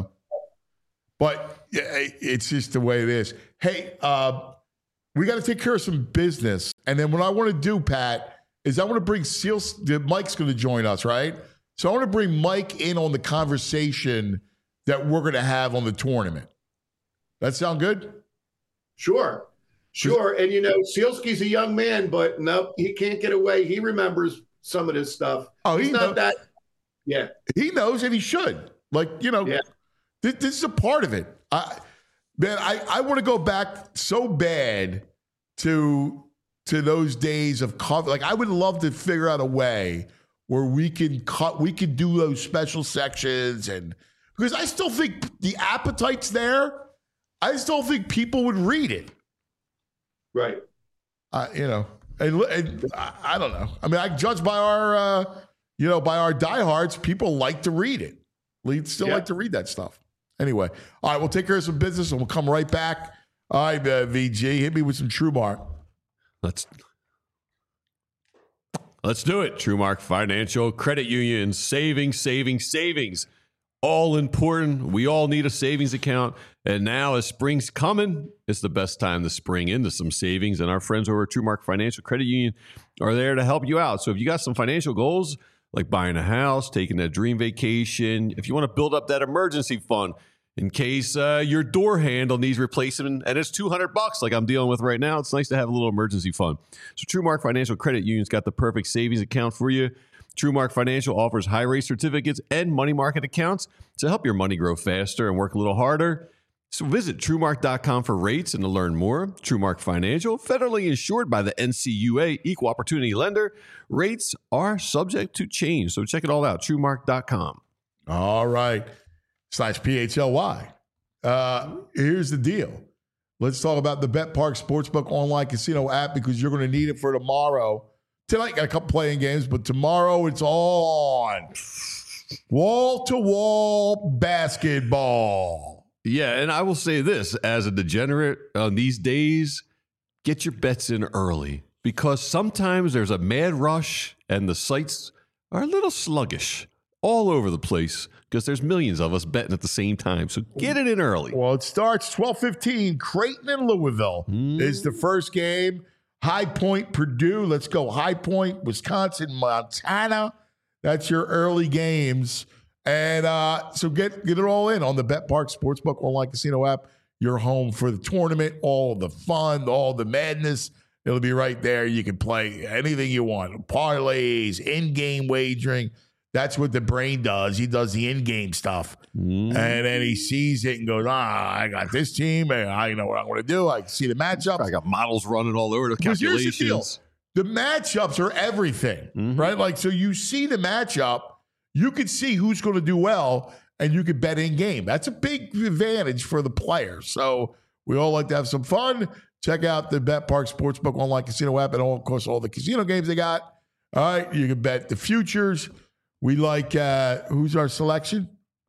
But it's just the way it is. Hey, we got to take care of some business. And then what I want to do, Pat, is I want to bring Mike's going to join us, right? So I want to bring Mike in on the conversation that we're going to have on the tournament. That sound good? Sure. And, Sealski's a young man, but no, he can't get away. He remembers some of this stuff. Oh, he's not that. Yeah. He knows, and he should. This is a part of it. I want to go back so bad to those days of cover. Like, I would love to figure out a way where we could do those special sections, and because I still think the appetite's there. I still think people would read it. Right. And I don't know. I mean, I judge by our, by our diehards, people like to read it. We'd still like to read that stuff. Anyway, all right, we'll take care of some business and we'll come right back. All right, VG, hit me with some TrueMark. Let's do it. TrueMark Financial Credit Union. Savings. All important. We all need a savings account. And now as spring's coming, it's the best time to spring into some savings. And our friends over at TrueMark Financial Credit Union are there to help you out. So if you got some financial goals, like buying a house, taking a dream vacation, if you want to build up that emergency fund in case your door handle needs replacement and it's $200 like I'm dealing with right now, it's nice to have a little emergency fund. So TrueMark Financial Credit Union's got the perfect savings account for you. TrueMark Financial offers high-rate certificates and money market accounts to help your money grow faster and work a little harder. So visit TrueMark.com for rates and to learn more. TrueMark Financial, federally insured by the NCUA, Equal Opportunity Lender. Rates are subject to change. So check it all out, TrueMark.com. All right. /PHLY. Here's the deal. Let's talk about the BetParx Sportsbook online casino app because you're going to need it for tomorrow. Tonight, got a couple playing games, but tomorrow it's all on. Wall-to-wall basketball. Yeah, and I will say this, as a degenerate on these days, get your bets in early because sometimes there's a mad rush and the sites are a little sluggish all over the place because there's millions of us betting at the same time. So get it in early. Well, it starts 12:15. Creighton and Louisville is the first game. High Point, Purdue. Let's go. High Point, Wisconsin, Montana. That's your early games. And so get it all in on the BetParx Sportsbook online casino app. You're home for the tournament, all the fun, all the madness. It'll be right there. You can play anything you want. Parlays, in-game wagering. That's what the brain does. He does the in-game stuff. And then he sees it and goes, I got this team, and I know what I'm going to do. I can see the matchups. I got models running all over the calculations. Here's the deal. The matchups are everything, right? Like, so you see the matchup, you can see who's going to do well, and you can bet in-game. That's a big advantage for the player. So we all like to have some fun. Check out the BetParx Sportsbook online casino app and, of course, all the casino games they got. All right, you can bet the futures. We like, who's our selection?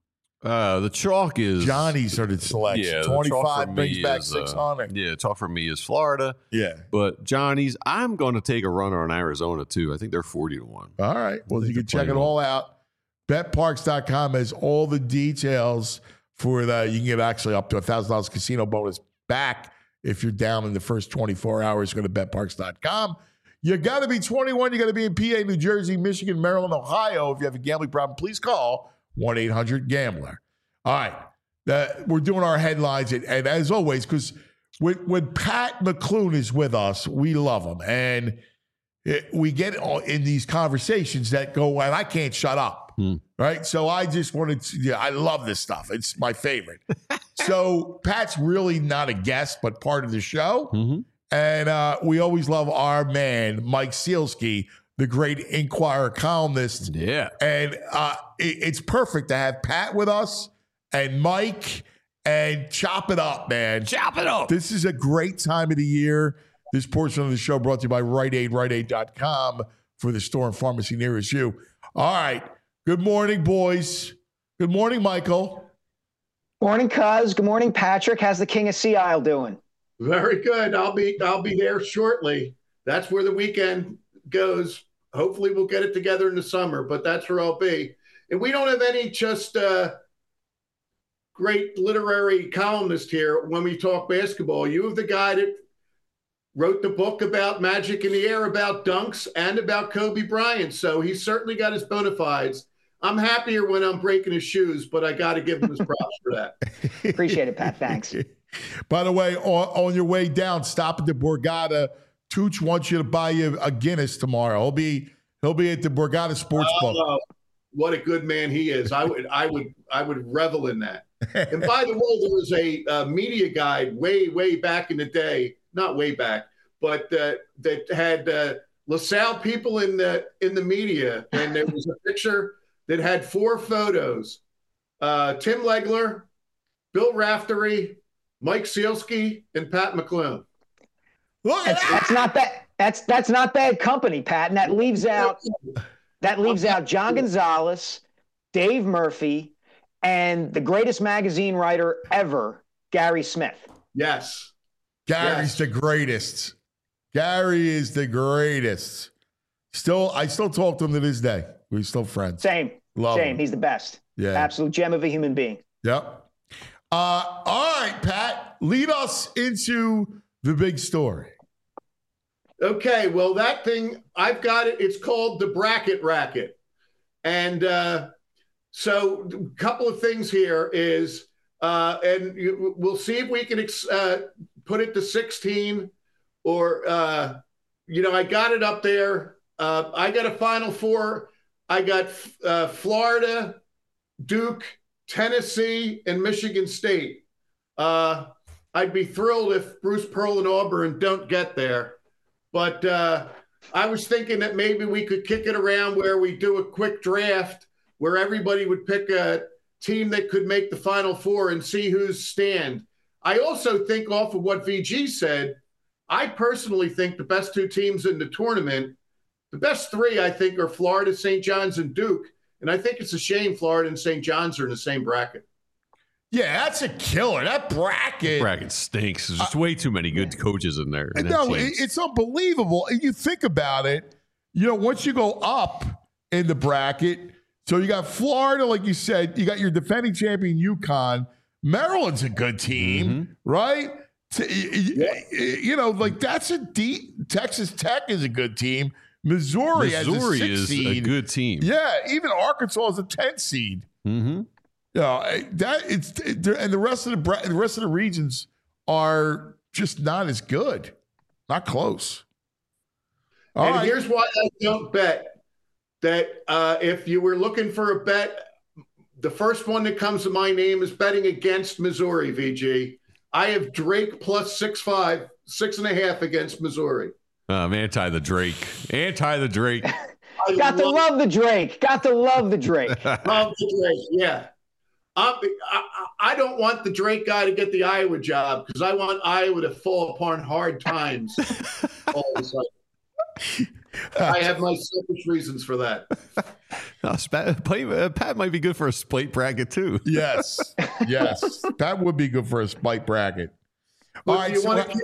The chalk is... Johnny's are the selection. Yeah, 25 brings back 600. Yeah, chalk for me is Florida. Yeah. But Johnny's, I'm going to take a runner on Arizona, too. I think they're 40-1. All right. Well, you can check it all out. BetParx.com has all the details for that. You can get actually up to $1,000 casino bonus back if you're down in the first 24 hours. Go to BetParx.com. You got to be 21. You got to be in PA, New Jersey, Michigan, Maryland, Ohio. If you have a gambling problem, please call 1-800-GAMBLER. All right. We're doing our headlines. And as always, because when Pat McClune is with us, we love him. And we get in these conversations that go, and I can't shut up. Right. So I just wanted to, I love this stuff. It's my favorite. So Pat's really not a guest, but part of the show. And we always love our man, Mike Sealski, the great Inquirer columnist. Yeah. And it's perfect to have Pat with us and Mike and chop it up, man. Chop it up. This is a great time of the year. This portion of the show brought to you by Rite Aid, RiteAid.com for the store and pharmacy nearest you. All right. Good morning, boys. Good morning, Michael. Morning, Cuz. Good morning, Patrick. How's the King of Sea Isle doing? Very good. I'll be there shortly. That's where the weekend goes. Hopefully we'll get it together in the summer, but that's where I'll be. And we don't have any just great literary columnist here when we talk basketball. You have the guy that wrote the book about Magic in the Air, about dunks, and about Kobe Bryant. So he's certainly got his bona fides. I'm happier when I'm breaking his shoes, but I got to give him his props for that. Appreciate it, Pat. Thanks. By the way, on your way down, stop at the Borgata. Tooch wants you to buy you a Guinness tomorrow. He'll be at the Borgata Sportsbook. What a good man he is! I would revel in that. And by the way, there was a media guide way back in the day, not way back, but that had LaSalle people in the media, and there was a picture that had 4 photos: Tim Legler, Bill Raftery, Mike Sealski, and Pat McClune. Look at that. That's not bad company, Pat. And that leaves out John Gonzalez, Dave Murphy, and the greatest magazine writer ever, Gary Smith. Yes. Gary's the greatest. Gary is the greatest. I still talk to him to this day. We're still friends. Same. Love Same. him. He's the best. Yeah. Absolute gem of a human being. Yep. All right, Pat, lead us into the big story. Okay, well, that thing, I've got it. It's called the Bracket Racket. And so a couple of things here is, we'll see if we can put it to 16 or, I got it up there. I got a Final Four. I got Florida, Duke, Tennessee, and Michigan State. I'd be thrilled if Bruce Pearl and Auburn don't get there. But I was thinking that maybe we could kick it around where we do a quick draft where everybody would pick a team that could make the Final Four and see who's stand. I also think off of what VG said, I personally think the best two teams in the tournament, the best three, I think, are Florida, St. John's, and Duke. And I think it's a shame Florida and St. John's are in the same bracket. Yeah, that's a killer. That bracket stinks. There's just way too many good coaches in there. No, it's unbelievable. And you think about it, once you go up in the bracket, so you got Florida, like you said, you got your defending champion UConn. Maryland's a good team, right? That's a deep. Texas Tech is a good team. Missouri as a 6 is seed. a good team. Yeah, even Arkansas is a 10 seed. Mm-hmm. And the rest of the regions are just not as good, not close. Here's why I don't bet that if you were looking for a bet, the first one that comes to my name is betting against Missouri. VG, I have Drake plus 6.5, 6.5 against Missouri. I'm anti the Drake. Got to love the Drake. Got to love the Drake. Love the Drake. Yeah. I don't want the Drake guy to get the Iowa job because I want Iowa to fall upon hard times all of a sudden. I have my selfish reasons for that. Pat might be good for a spite bracket too. Yes. That would be good for a spite bracket. All right.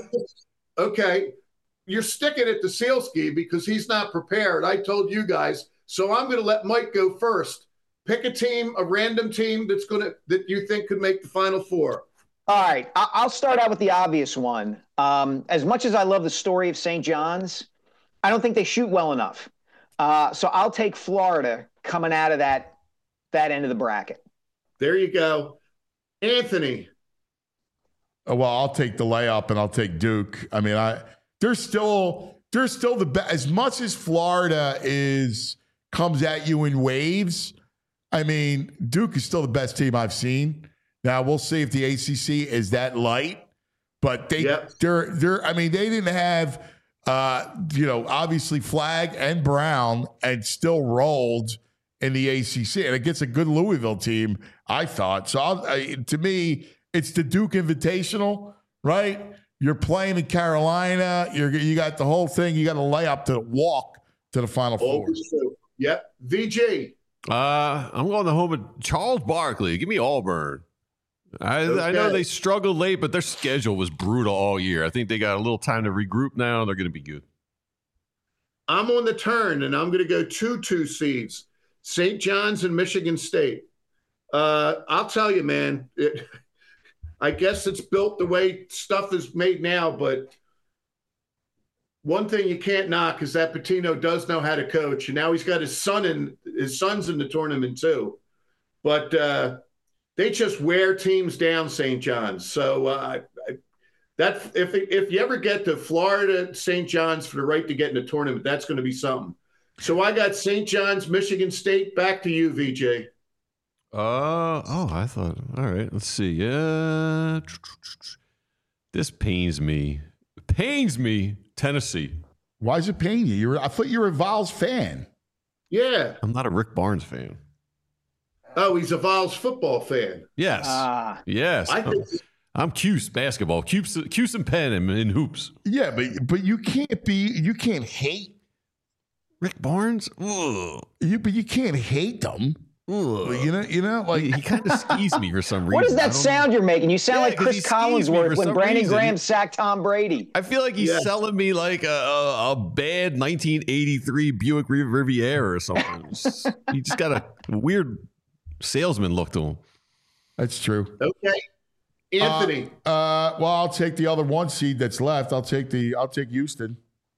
Okay. You're sticking it to Sealski because he's not prepared. I told you guys. So I'm going to let Mike go first. Pick a team, a random team that you think could make the Final Four. All right. I'll start out with the obvious one. As much as I love the story of St. John's, I don't think they shoot well enough. So I'll take Florida coming out of that end of the bracket. There you go. Anthony. Well, I'll take the layup and I'll take Duke. I mean, they're still the best. As much as Florida comes at you in waves, I mean, Duke is still the best team I've seen. Now we'll see if the ACC is that light, but they're. I mean, they didn't have, obviously Flagg and Brown, and still rolled in the ACC, and it gets a good Louisville team, I thought. So to me, it's the Duke Invitational, right? You're playing in Carolina. You got the whole thing. You got to lay up to walk to the Final Four. Yep. VG. I'm going the home of Charles Barkley. Give me Auburn. I know they struggled late, but their schedule was brutal all year. I think they got a little time to regroup now. They're going to be good. I'm on the turn, and I'm going to go 2 seeds, St. John's and Michigan State. I'll tell you, man, I guess it's built the way stuff is made now, but one thing you can't knock is that Pitino does know how to coach, and now he's got his son's in the tournament too. But they just wear teams down, St. John's. So that if you ever get to Florida, St. John's for the right to get in the tournament, that's going to be something. So I got St. John's, Michigan State. Back to you, VJ. I thought. All right, let's see. This pains me. Tennessee. Why does it pain you? I thought you were a Vols fan. Yeah. I'm not a Rick Barnes fan. Oh, he's a Vols football fan. Yes. Yes. I'm Cuse basketball. Cuse and Penn in hoops. Yeah, but you can't hate Rick Barnes. Ugh. But you can't hate them. You know, like he kind of skis me for some reason. What is I that don't- sound you're making? You sound Yeah, like 'cause he Chris skis me Collinsworth for when some Brandon reason. Graham sacked Tom Brady. I feel like he's selling me like a bad 1983 Buick Riviera or something. He just got a weird salesman look to him. that's true. Okay. Anthony. Well, I'll take the other 1 seed that's left. I'll take Houston.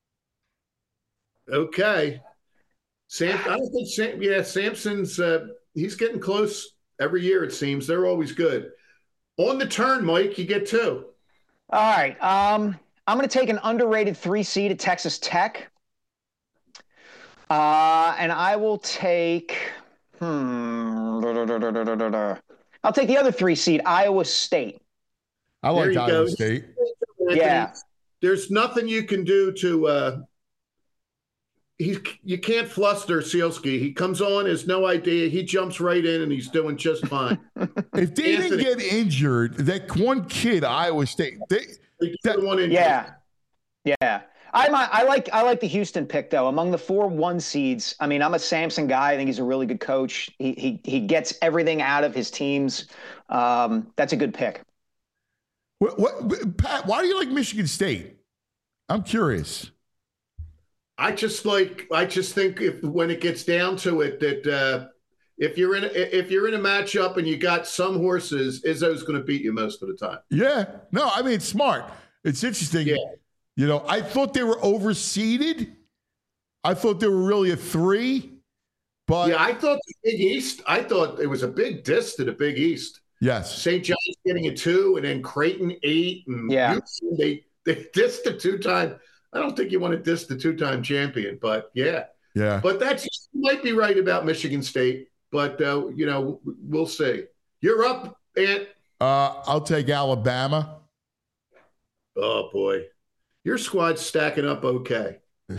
Okay. I don't think Sampson's he's getting close every year, it seems. They're always good. On the turn, Mike, you get 2. All right. I'm going to take an underrated 3 seed at Texas Tech. And I will take I'll take the other 3 seed, Iowa State. I There like you Iowa go. State. Anthony, Yeah. There's nothing you can do to you can't fluster Sealski. He comes on, has no idea. He jumps right in and he's doing just fine. If they didn't Anthony. get injured, that one kid, Iowa State, Yeah. I like the Houston pick though. Among the 4 1 seeds, I mean, I'm a Sampson guy. I think he's a really good coach. He gets everything out of his teams. That's a good pick. Pat, why do you like Michigan State? I'm curious. I just think when it gets down to it that if you're in a matchup and you got some horses, Izzo's going to beat you most of the time. Yeah. No, I mean, it's smart. It's interesting. Yeah. You know, I thought they were overseeded. I thought they were really a 3. But Yeah, I thought the Big East. I thought it was a big diss to the Big East. yes. St. John's getting a 2, and then Creighton 8, and Yeah. Houston, they dissed the 2-time. I don't think you want to diss the 2-time champion, but yeah. Yeah. But you might be right about Michigan State, but we'll see. You're up, Ant. I'll take Alabama. Oh boy, your squad's stacking up okay.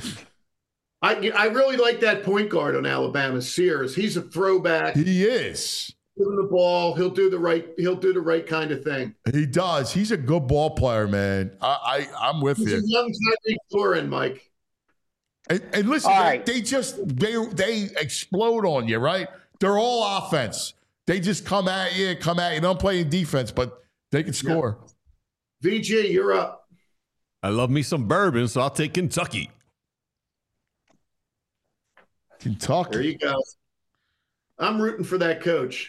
I really like that point guard on Alabama, Sears. He's a throwback. He is. Give him the ball. He'll do the right kind of thing. He does. He's a good ball player, man. I'm with He's you. a young Tyreek Thorin, Mike. And listen, All right. they explode on you, right? They're all offense. They just come at you. They don't play in defense, but they can score. VG, you're up. I love me some bourbon, so I'll take Kentucky. Kentucky. There you go. I'm rooting for that coach.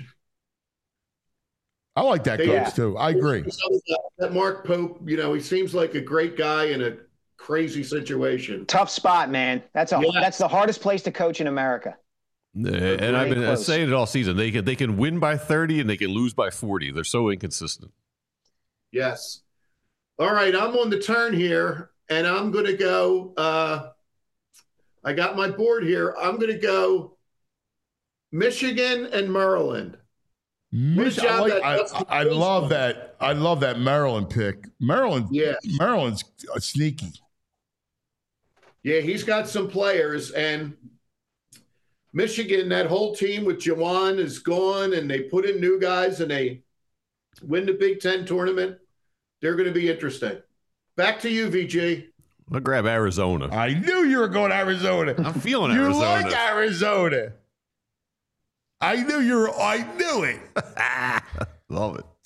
I like that coach too. I agree. That Mark Pope, he seems like a great guy in a crazy situation. Tough spot, man. That's the hardest place to coach in America. And I've been close. saying it all season. They can win by 30 and they can lose by 40. They're so inconsistent. Yes. All right, I'm on the turn here, and I'm going to go. I got my board here. I'm going to go Michigan and Maryland. I love that. I love that Maryland pick. Maryland's sneaky. Yeah, he's got some players, and Michigan, that whole team with Jawan is gone, and they put in new guys, and they win the Big Ten tournament. They're going to be interesting. Back to you, VG. I'll grab Arizona. I knew you were going to Arizona. I'm feeling You Arizona. like Arizona. I knew it. Love it.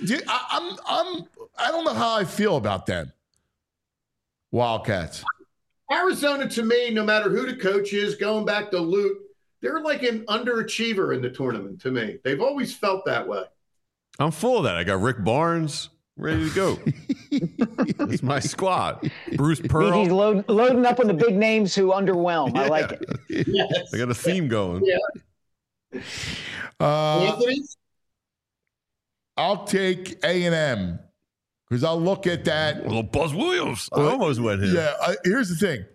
I don't know how I feel about them. Wildcats. Arizona, to me, no matter who the coach is, going back to Lute, they're like an underachiever in the tournament to me. They've always felt that way. I'm full of that. I got Rick Barnes ready to go. That's my squad. Bruce Pearl. He's loading up on the big names who underwhelm. I like it. Yes. I got a theme going. Yeah. Anthony? I'll take A&M because I'll look at that. Well, Buzz Williams. I almost went here. Yeah, here's the thing.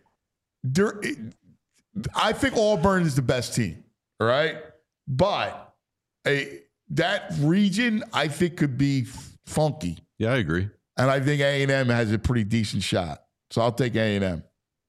I think Auburn is the best team, all right? But that region, I think, could be funky. Yeah, I agree. And I think A&M has a pretty decent shot. So I'll take A&M.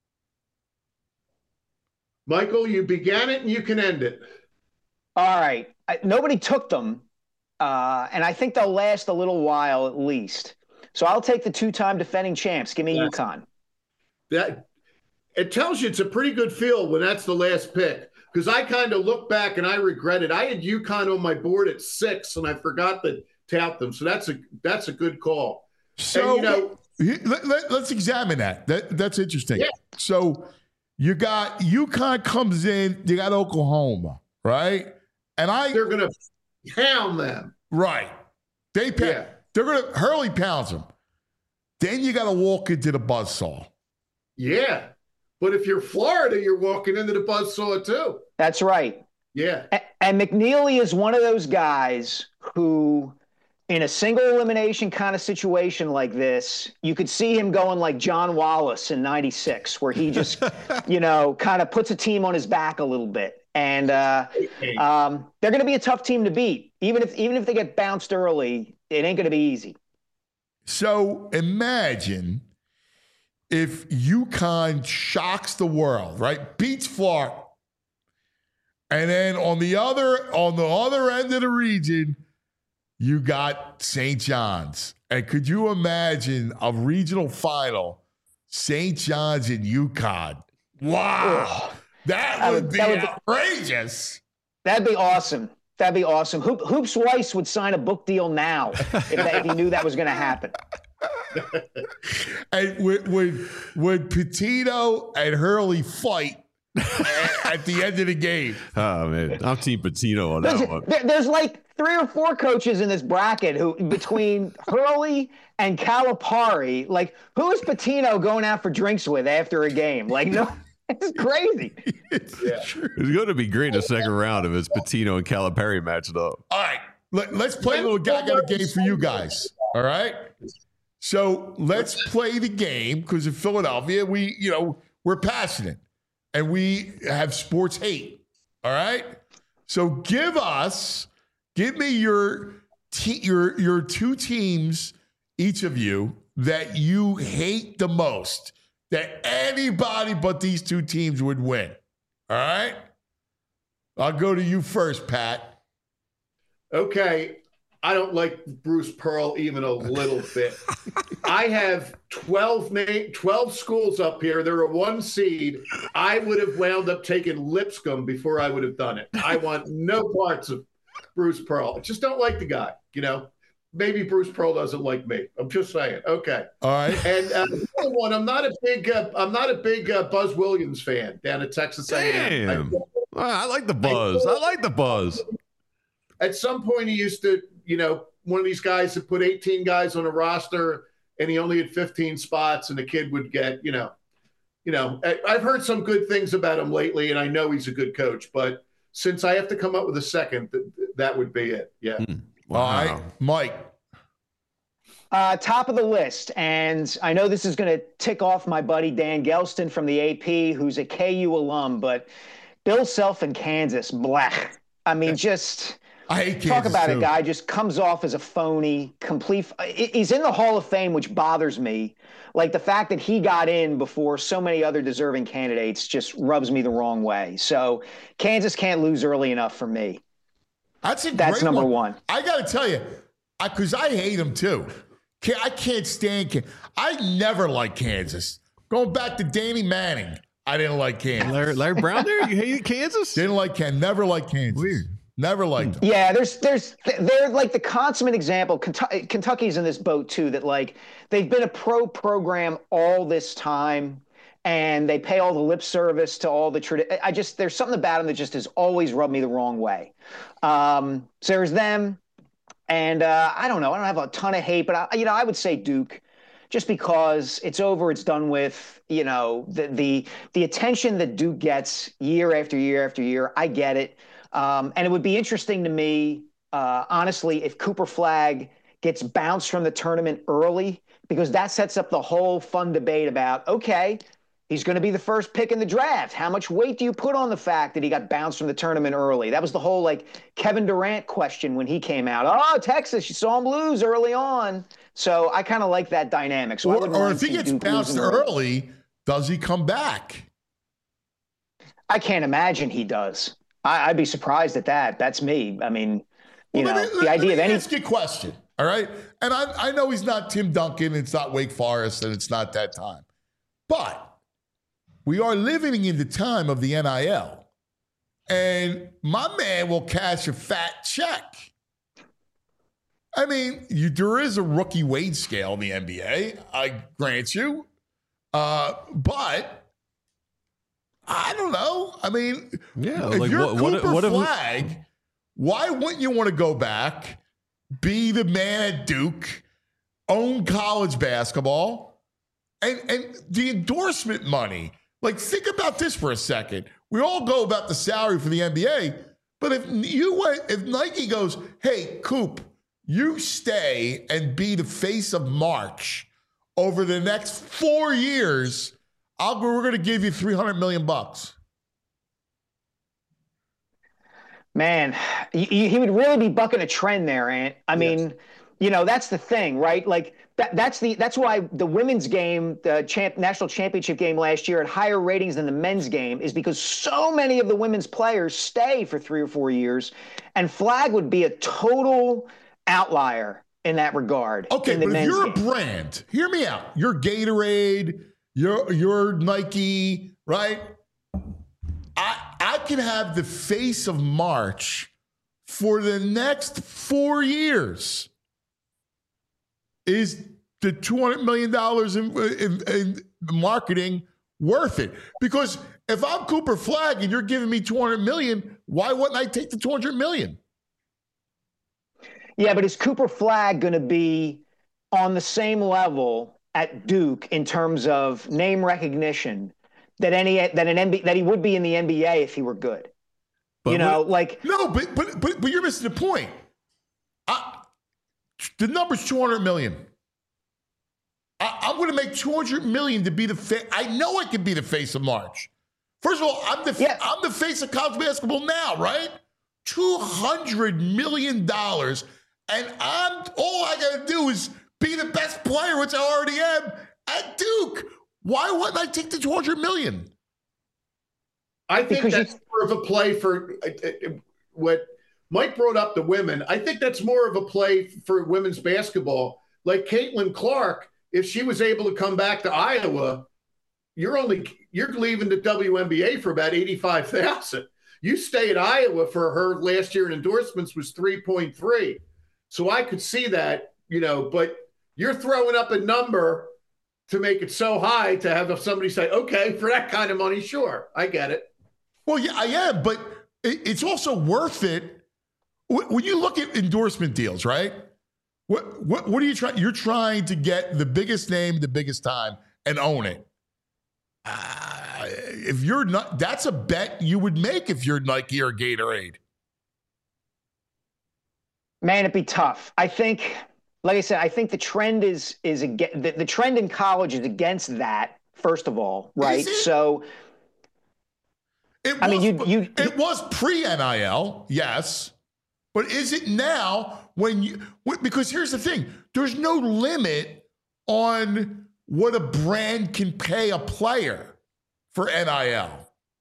Michael, you began it and you can end it. All right. Nobody took them, and I think they'll last a little while at least. So I'll take the 2-time defending champs. Give me UConn. That it tells you it's a pretty good field when that's the last pick. because I kind of look back and I regret it. I had UConn on my board at 6, and I forgot to tout them. So that's a good call. So And, let's examine that. That's interesting. Yeah. So you got UConn comes in, you got Oklahoma, right? And they're going to pound them. Right. They're going to Hurley pounds them. Then you got to walk into the buzzsaw. Yeah. But if you're Florida, you're walking into the buzzsaw too. That's right. Yeah. And McNeely is one of those guys who, in a single elimination kind of situation like this, you could see him going like John Wallace in '96, where he just, kind of puts a team on his back a little bit. And they're going to be a tough team to beat. Even if they get bounced early, it ain't going to be easy. So imagine if UConn shocks the world, right? Beats Florida. And then on the other end of the region, you got St. John's. And could you imagine a regional final, St. John's and UConn? Wow. That would be outrageous. That'd be awesome. That'd be awesome. Hoops Weiss would sign a book deal now if he knew that was going to happen. And would Pitino and Hurley fight at the end of the game? Oh, man. I'm Team Pitino on that one. There's like 3 or 4 coaches in this bracket who, between Hurley and Calipari, like, who is Pitino going out for drinks with after a game? Like, no. It's crazy. It's going to be great in the second round if it's Pitino and Calipari matched up. All right. Let's play a little I got a game for you guys. All right. So let's play the game because in Philadelphia, we're passionate and we have sports hate. All right. So give me your 2 teams, each of you, that you hate the most, that anybody but these 2 teams would win. All right? I'll go to you first, Pat. Okay. I don't like Bruce Pearl even a little bit. I have 12 schools up here. They're a 1 seed. I would have wound up taking Lipscomb before I would have done it. I want no parts of Bruce Pearl. I just don't like the guy, Maybe Bruce Pearl doesn't like me. I'm just saying. Okay. All right. And the other one, I'm not a big Buzz Williams fan down at Texas A&M. Damn. I like the Buzz. I like the Buzz. At some point, he used to, one of these guys that put 18 guys on a roster, and he only had 15 spots, and the kid would get, I've heard some good things about him lately, and I know he's a good coach. But since I have to come up with a second, that would be it. Yeah. Wow. All right, Mike. Top of the list, and I know this is going to tick off my buddy Dan Gelston from the AP, who's a KU alum, but Bill Self in Kansas, blech. I mean, just I hate Kansas talk about too. a guy just comes off as a phony, complete. He's in the Hall of Fame, which bothers me. Like the fact that he got in before so many other deserving candidates just rubs me the wrong way. So Kansas can't lose early enough for me. That's number one. I got to tell you, because I hate him too. I can't stand Kansas. I never liked Kansas. Going back to Danny Manning, I didn't like Kansas. Larry Brown there? You hated Kansas? Didn't like Kansas. Never liked Kansas. Weird. Never liked them. Yeah, they're like the consummate example. Kentucky's in this boat too, that like they've been a pro program all this time. And they pay all the lip service to all the tradition. There's something about them that just has always rubbed me the wrong way. So there's them, and I don't know. I don't have a ton of hate, but I would say Duke, just because it's over, it's done with. The attention that Duke gets year after year after year. I get it, and it would be interesting to me, honestly, if Cooper Flagg gets bounced from the tournament early, because that sets up the whole fun debate about he's going to be the first pick in the draft. How much weight do you put on the fact that he got bounced from the tournament early? That was the whole Kevin Durant question when he came out. Oh, Texas, you saw him lose early on. So I kind of like that dynamic. So or if he gets bounced early, does he come back? I can't imagine he does. I'd be surprised at that. That's me. I mean, the idea of any. Ask you a question. All right. And I know he's not Tim Duncan. It's not Wake Forest, and it's not that time. But we are living in the time of the NIL. and my man will cash a fat check. I mean, there is a rookie wage scale in the NBA, I grant you. But I don't know. I mean, if like you're Cooper if Flag, why wouldn't you want to go back, be the man at Duke, own college basketball, and the endorsement money? Like, think about this for a second. We all go about the salary for the NBA, but if Nike goes, hey, Coop, you stay and be the face of March over the next 4 years, we're going to give you $300 million. Man, he would really be bucking a trend there, Ant. I mean, that's the thing, right? Like that's why the women's game, the national championship game last year, had higher ratings than the men's game, is because so many of the women's players stay for 3 or 4 years, and Flag would be a total outlier in that regard. Okay, but if you're a brand, hear me out. You're Gatorade, you're Nike, right? I can have the face of March for the next 4 years. Is the $200 million in marketing worth it? Because if I'm Cooper Flag and you're giving me $200 million, why wouldn't I take the $200 million? Yeah, but is Cooper Flag going to be on the same level at Duke in terms of name recognition that he would be in the NBA if he were good? But you're missing the point. The number's $200 million. I'm going to make $200 million to be the face. I know I can be the face of March. First of all, I'm the face of college basketball now, right? $200 million. And all I got to do is be the best player, which I already am, at Duke. Why wouldn't I take the $200 million? I think that's more of a play for what Mike brought up, the women. I think that's more of a play for women's basketball. Like Caitlin Clark, if she was able to come back to Iowa, you're leaving the WNBA for about $85,000. You stay at Iowa for her last year in endorsements was 3.3. So I could see that, but you're throwing up a number to make it so high to have somebody say, okay, for that kind of money, sure, I get it. Well, yeah, I am, but it's also worth it. When you look at endorsement deals, right? What are you trying? You're trying to get the biggest name, the biggest time, and own it. If you're not, that's a bet you would make if you're Nike or Gatorade. Man, it'd be tough. I think, like I said, I think the trend the trend in college is against that. First of all, right? So, it was pre-NIL, yes, but is it now? Because here's the thing: there's no limit on what a brand can pay a player for NIL.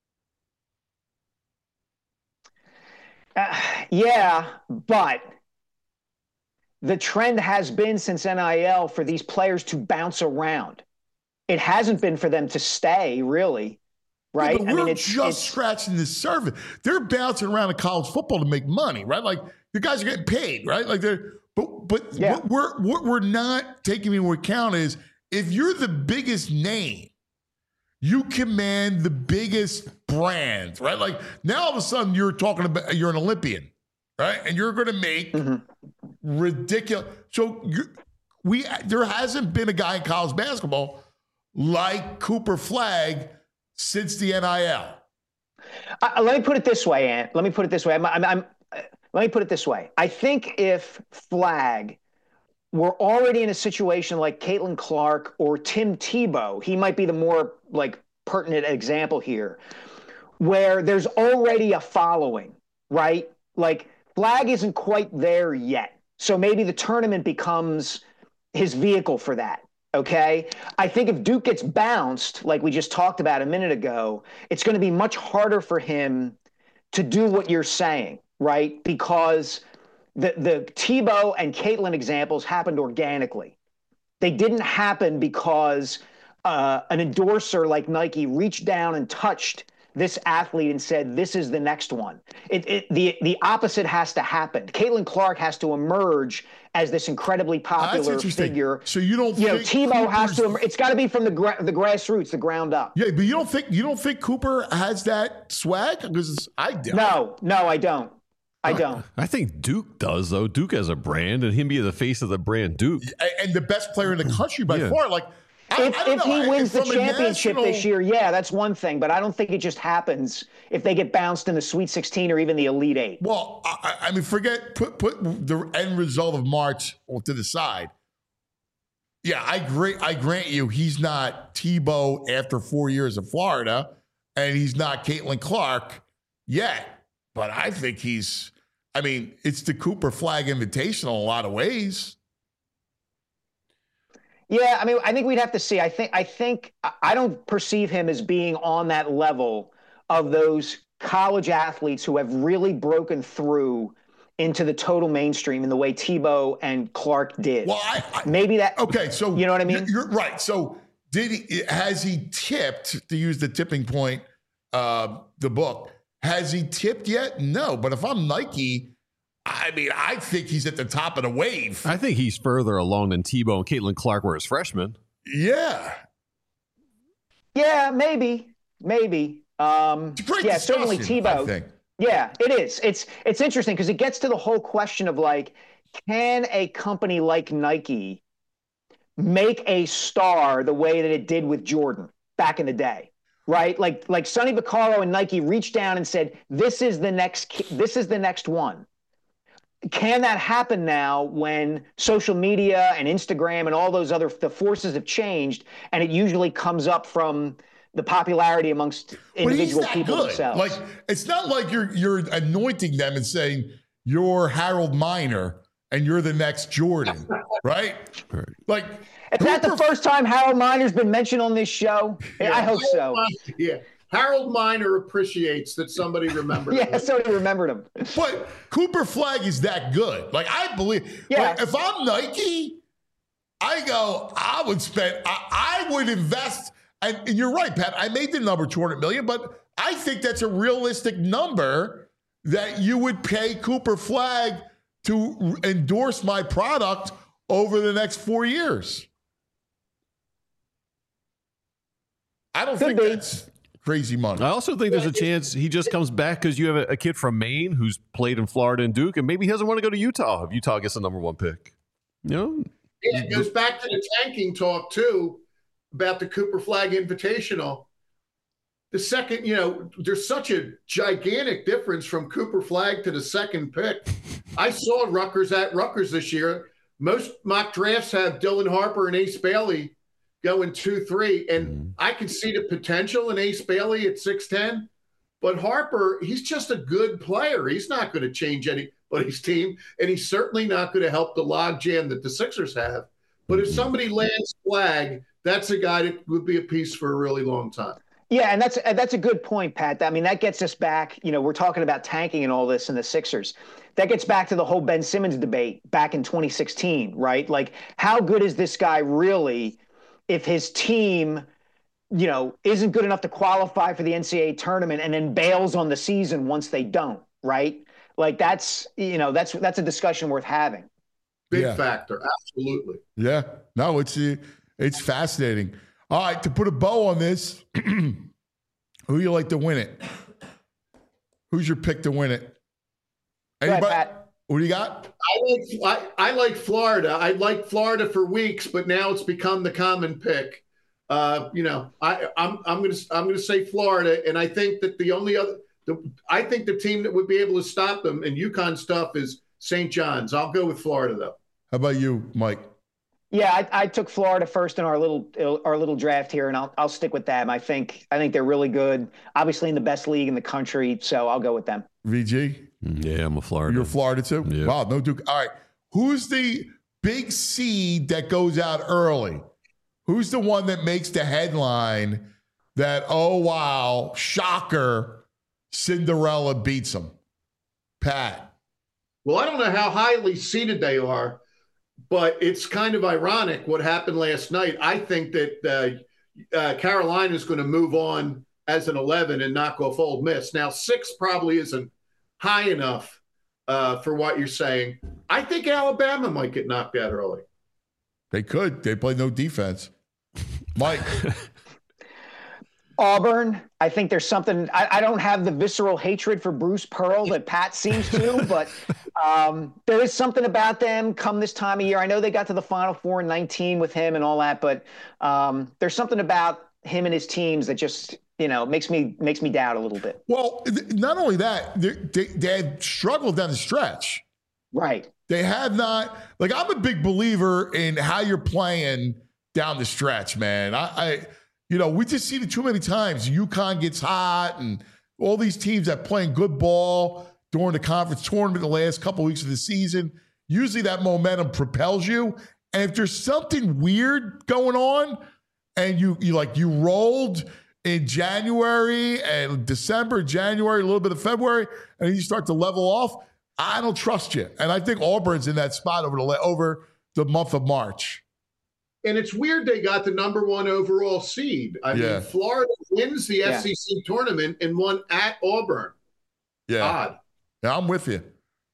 Yeah, but the trend has been since NIL for these players to bounce around. It hasn't been for them to stay, really, right? Yeah, but we're just scratching the surface. They're bouncing around in college football to make money, right? Like the guys are getting paid, right? Like but yeah. what we're not taking into account is if you're the biggest name, you command the biggest brand, right? Like now all of a sudden you're talking about you're an Olympian, right? And you're going to make ridiculous. So there hasn't been a guy in college basketball like Cooper Flag since the NIL. Let me put it this way, Ant. Let me put it this way. Let me put it this way. I think if Flag were already in a situation like Caitlin Clark or Tim Tebow, he might be the more pertinent example here, where there's already a following, right? Like Flag isn't quite there yet. So maybe the tournament becomes his vehicle for that. Okay. I think if Duke gets bounced, like we just talked about a minute ago, it's going to be much harder for him to do what you're saying, right? Because the Tebow and Caitlin examples happened organically. They didn't happen because an endorser like Nike reached down and touched this athlete and said, this is the next one. The opposite has to happen. Caitlin Clark has to emerge as this incredibly popular figure. So you don't think Tebow has to, it's got to be from the grassroots, the ground up. Yeah, but you don't think Cooper has that swag? Because I do. No, I don't. I don't. I think Duke does, though. Duke has a brand, and him be the face of the brand Duke. And the best player in the country by far. Like, if he wins the championship this year, that's one thing. But I don't think it just happens if they get bounced in the Sweet 16 or even the Elite Eight. Well, I mean, put the end result of March to the side. Yeah, I grant you he's not Tebow after 4 years of Florida, and he's not Caitlin Clark yet. But I think it's the Cooper Flag Invitational in a lot of ways. Yeah, I mean, I think we'd have to see. I don't perceive him as being on that level of those college athletes who have really broken through into the total mainstream in the way Tebow and Clark did. Well, maybe that. Okay, so you know what I mean? You're right. So has he tipped, to use the tipping point, the book? Has he tipped yet? No. But if I'm Nike, I think he's at the top of the wave. I think he's further along than Tebow and Caitlin Clark were as freshmen. Yeah. Yeah, maybe. It's a great certainly Tebow. I think. Yeah, it is. It's interesting because it gets to the whole question of like, can a company like Nike make a star the way that it did with Jordan back in the day? Right, like Sonny Vaccaro and Nike reached down and said, "This is the next one." Can that happen now when social media and Instagram and all those the forces have changed, and it usually comes up from the popularity amongst individual people themselves? Like, it's not like you're anointing them and saying you're Harold Miner and you're the next Jordan, right? Like. Is that the first time Harold Miner's been mentioned on this show? Yeah, I hope so. Yeah. Harold Miner appreciates that somebody remembered him. Yeah, somebody remembered him. But Cooper Flag is that good. Like, I believe. Yeah. Like, if I'm Nike, I would invest. And you're right, Pat. I made the number $200 million, but I think that's a realistic number that you would pay Cooper Flag to endorse my product over the next 4 years. I don't think that's crazy money. I also think there's a chance he just comes back because you have a kid from Maine who's played in Florida and Duke, and maybe he doesn't want to go to Utah if Utah gets the number one pick. You know? Yeah, it goes back to the tanking talk, too, about the Cooper Flag Invitational. The second, there's such a gigantic difference from Cooper Flag to the second pick. I saw Rutgers at Rutgers this year. Most mock drafts have Dylan Harper and Ace Bailey going 2-3, and I could see the potential in Ace Bailey at 6'10", but Harper, he's just a good player. He's not going to change anybody's team, and he's certainly not going to help the logjam that the Sixers have. But if somebody lands Flag, that's a guy that would be a piece for a really long time. Yeah, and that's a good point, Pat. I mean, that gets us back. We're talking about tanking and all this in the Sixers. That gets back to the whole Ben Simmons debate back in 2016, right? Like, how good is this guy really if his team, isn't good enough to qualify for the NCAA tournament and then bails on the season once they don't, right? Like, that's a discussion worth having. Big factor, absolutely. Yeah, no, it's fascinating. All right, to put a bow on this, who do you like to win it? Who's your pick to win it? Anybody? Go ahead, Pat. What do you got? I like Florida. I like Florida for weeks, but now it's become the common pick. I'm gonna say Florida, and I think that I think the team that would be able to stop them in UConn stuff is St. John's. I'll go with Florida though. How about you, Mike? Yeah, I took Florida first in our little draft here, and I'll stick with them. I think they're really good. Obviously, in the best league in the country, so I'll go with them. VG? Yeah, I'm a Florida. You're Florida too? Yeah. Wow, no Duke. All right, who's the big seed that goes out early? Who's the one that makes the headline that, oh wow, shocker, Cinderella beats them? Pat? Well, I don't know how highly seeded they are, but it's kind of ironic what happened last night. I think that Carolina is going to move on as an 11 and knock off Ole Miss. Now, 6 probably isn't high enough for what you're saying. I think Alabama might get knocked out early. They could. They play no defense. Mike. Auburn, I think there's something. I don't have the visceral hatred for Bruce Pearl that Pat seems to, but there is something about them come this time of year. I know they got to the Final Four in 19 with him and all that, but there's something about him and his teams that just, makes me doubt a little bit. Well, not only that, they had struggled down the stretch. Right. They have not. Like, I'm a big believer in how you're playing down the stretch, man. We just seen it too many times. UConn gets hot, and all these teams that playing good ball during the conference tournament the last couple weeks of the season. Usually that momentum propels you. And if there's something weird going on, and you rolled in January and December, January, a little bit of February, and then you start to level off, I don't trust you. And I think Auburn's in that spot over the month of March. And it's weird they got the number 1 overall seed. I mean, Florida wins the SEC tournament and won at Auburn. Yeah. Odd. Yeah, I'm with you.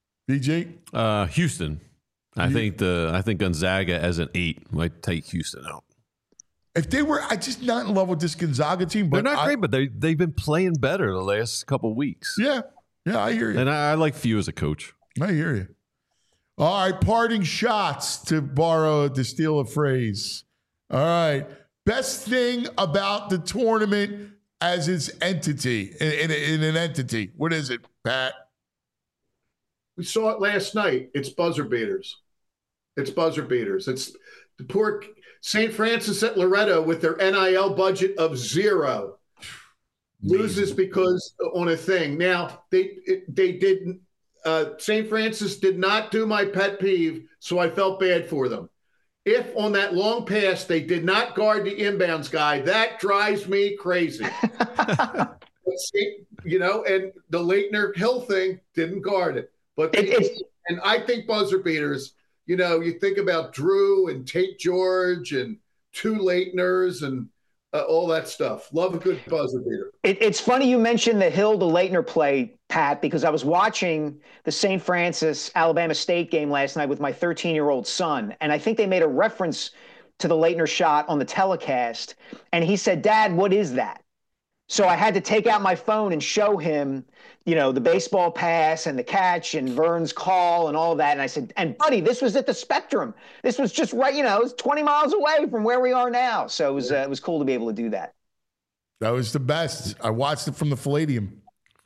BG? Houston. I think Gonzaga as an 8 might take Houston out. If they were, I just not in love with this Gonzaga team. But they're not great, but they've been playing better the last couple of weeks. Yeah. Yeah, I hear you. And I like Few as a coach. I hear you. All right, parting shots, to steal a phrase. All right. Best thing about the tournament as its entity, in an entity. What is it, Pat? We saw it last night. It's buzzer beaters. It's the poor St. Francis at Loretto with their NIL budget of 0 loses because on a thing. Now, they didn't. St. Francis did not do my pet peeve, so I felt bad for them. If on that long pass they did not guard the inbounds guy, that drives me crazy. And the Leitner Hill thing didn't guard it. But and I think buzzer beaters, you think about Drew and Tate George and 2 Leitners and all that stuff. Love a good buzzer beater. It's funny you mentioned the Hill to Leitner play, Pat, because I was watching the St. Francis Alabama State game last night with my 13-year-old son, and I think they made a reference to the Leitner shot on the telecast, and he said, "Dad, what is that?" So I had to take out my phone and show him, the baseball pass and the catch and Vern's call and all that. And I said, and buddy, this was at the Spectrum. This was just right, it was 20 miles away from where we are now. So it was cool to be able to do that. That was the best. I watched it from the Palladium.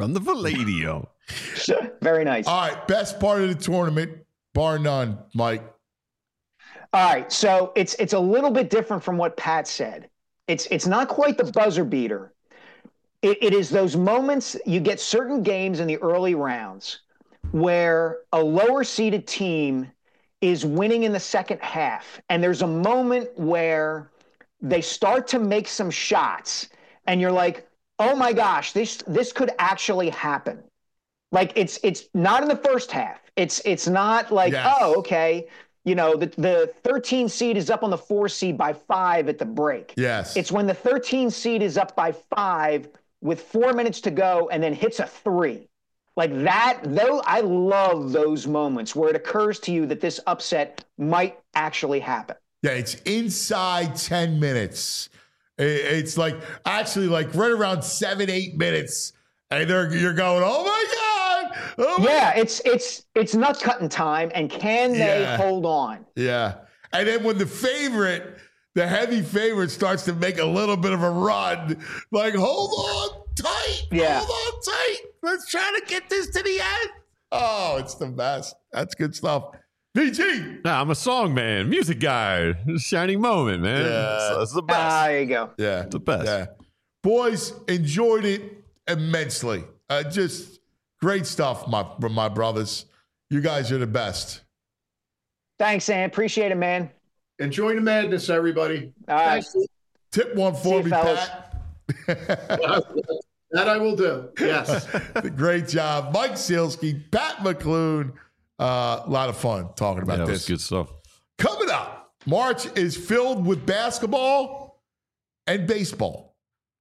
Very nice. All right. Best part of the tournament, bar none, Mike. All right. So it's a little bit different from what Pat said. It's not quite the buzzer beater. It is those moments, you get certain games in the early rounds where a lower seeded team is winning in the second half. And there's a moment where they start to make some shots and you're like, oh my gosh, this could actually happen. Like it's not in the first half. It's not like, oh, okay. The 13 seed is up on the 4 seed by 5 at the break. Yes. It's when the 13 seed is up by 5 with 4 minutes to go and then hits a 3. Like that, though, I love those moments where it occurs to you that this upset might actually happen. Yeah, it's inside 10 minutes. It's actually right around 7-8 minutes. And you're going, oh my God. Yeah, it's nut cutting time. And can they hold on? Yeah. And then when the heavy favorite starts to make a little bit of a run, hold on tight. Yeah. Hold on tight. Let's try to get this to the end. Oh, it's the best. That's good stuff. VG. Nah, I'm a song man, music guy. Shining moment, man. Yeah. That's the best. There you go. Yeah. It's the best. Yeah. Boys, enjoyed it immensely. Just great stuff, my brothers. You guys are the best. Thanks, Sam. Appreciate it, man. Enjoy the madness, everybody. All right. Thanks. Tip one for me, fellas. Pat. That I will do. Yes. Great job. Mike Sealski, Pat McClune. A lot of fun talking about That this. was good stuff. Coming up, March is filled with basketball and baseball.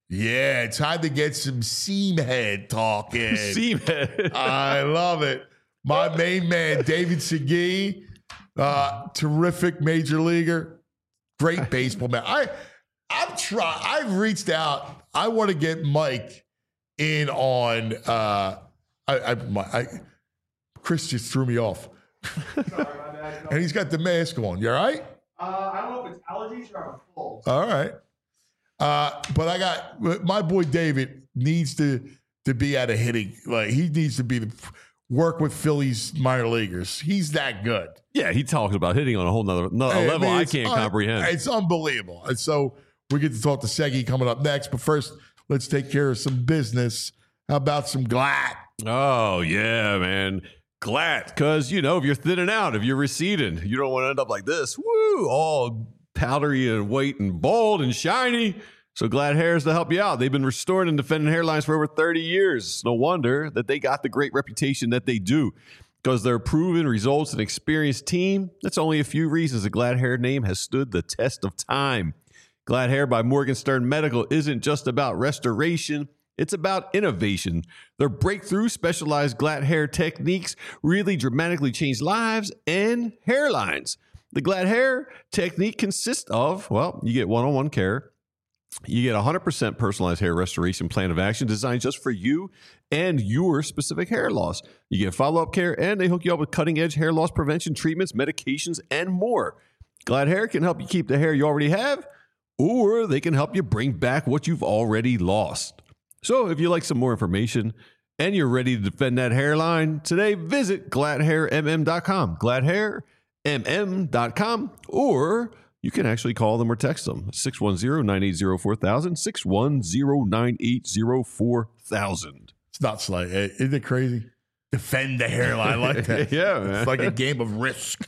Yeah, time to get some Seamhead talking. Seamhead. I love it. My main man, David Segui, terrific major leaguer, great baseball man. I've reached out. I want to get Mike in on. Chris just threw me off. Sorry, my bad. And he's got the mask on. You all right? I don't know if it's allergies or I'm full. All right. But I got my boy David needs to be at a hitting. Like he needs to work with Phillies minor leaguers. He's that good. Yeah, he talks about hitting on a whole nother level I can't comprehend. It's unbelievable. And so we get to talk to Segui coming up next. But first, let's take care of some business. How about some GLAT? Oh, yeah, man. GLAT. Because, if you're thinning out, if you're receding, you don't want to end up like this. Woo! All powdery and white and bald and shiny. So GLAT Hair is to help you out. They've been restoring and defending hairlines for over 30 years. No wonder that they got the great reputation that they do. Because they're a proven results and experienced team. That's only a few reasons the GLAT Hair name has stood the test of time. GLAT Hair by Morgenstern Medical isn't just about restoration. It's about innovation. Their breakthrough specialized GLAT hair techniques really dramatically change lives and hairlines. The GLAT hair technique consists of, you get one-on-one care. You get 100% personalized hair restoration plan of action designed just for you and your specific hair loss. You get follow-up care, and they hook you up with cutting-edge hair loss prevention treatments, medications, and more. GLAT Hair can help you keep the hair you already have, or they can help you bring back what you've already lost. So if you'd like some more information and you're ready to defend that hairline, today visit GLATHairMM.com, GLATHairMM.com, or you can actually call them or text them, 610-980-4000, 610-980-4000. It's nuts. Like, isn't it crazy? Defend the hairline like that. Yeah, man. It's like a game of Risk.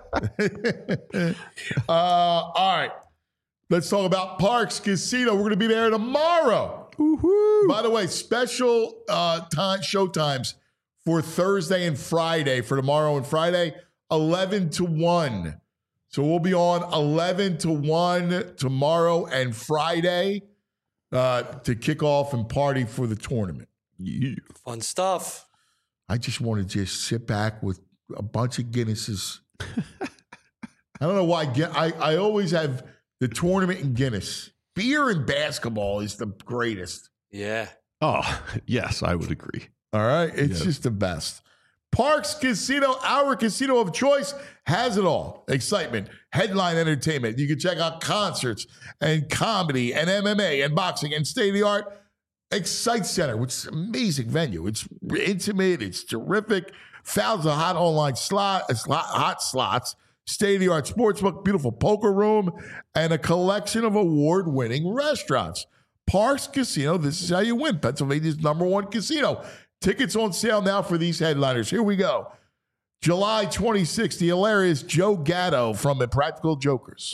All right. Let's talk about Parx Casino. We're going to be there tomorrow. Woo-hoo. By the way, special show times for Thursday and Friday, for tomorrow and Friday, 11 to 1. So we'll be on 11 to 1 tomorrow and Friday to kick off and party for the tournament. Yeah. Fun stuff. I just want to just sit back with a bunch of Guinnesses. I don't know why. I always have the tournament in Guinness. Beer and basketball is the greatest. Yeah. Oh, yes, I would agree. All right. It's just the best. Parx Casino, our casino of choice, has it all. Excitement, headline entertainment. You can check out concerts and comedy and MMA and boxing and state-of-the-art Excite Center, which is an amazing venue. It's intimate. It's terrific. Thousands of hot online hot slots, state-of-the-art sportsbook, beautiful poker room, and a collection of award-winning restaurants. Parx Casino, this is how you win. Pennsylvania's #1 casino. Tickets on sale now for these headliners. Here we go. July 26th, the hilarious Joe Gatto from Impractical Jokers.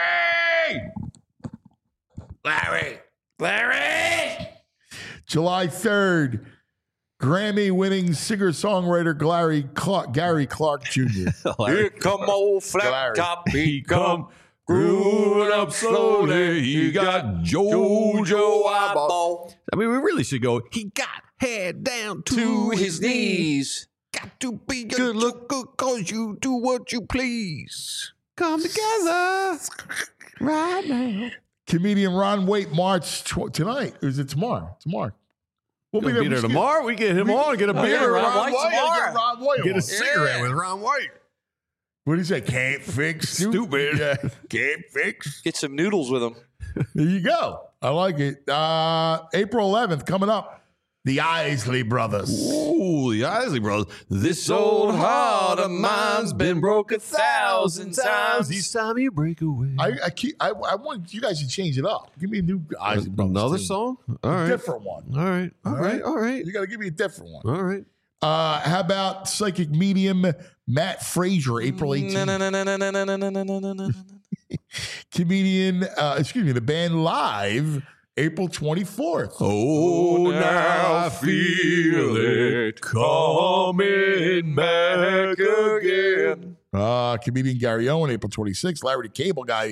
Larry! July 3rd, Grammy-winning singer-songwriter Gary Clark Jr. Here come old flat top, he come growing up slowly. He got JoJo eyeball. I mean, we really should go. He got head down to his knees. Got to be good look good cause you do what you please. Come together right now. Comedian Ron Waite March tonight. Or is it tomorrow? Tomorrow. We'll be there tomorrow. We get him on. Get a beer with Ron White tomorrow. Ron White get a cigarette with Ron White. What do you say? Can't fix stupid. Yeah. Can't fix. Get some noodles with him. There you go. I like it. April 11th coming up. The Isley Brothers. Ooh, the Isley Brothers. This old heart of mine's been broke 1,000 times. Each time you break away. I want you guys to change it up. Give me a new Isley Brothers. Another team. song? All right. Different one. All right. All right. You got to give me a different one. All right. How about psychic medium Matt Frazier, April 18th? Comedian, the band Live, April 24th. Oh, now I feel it coming back again. Comedian Gary Owen, April 26th. Larry the Cable Guy,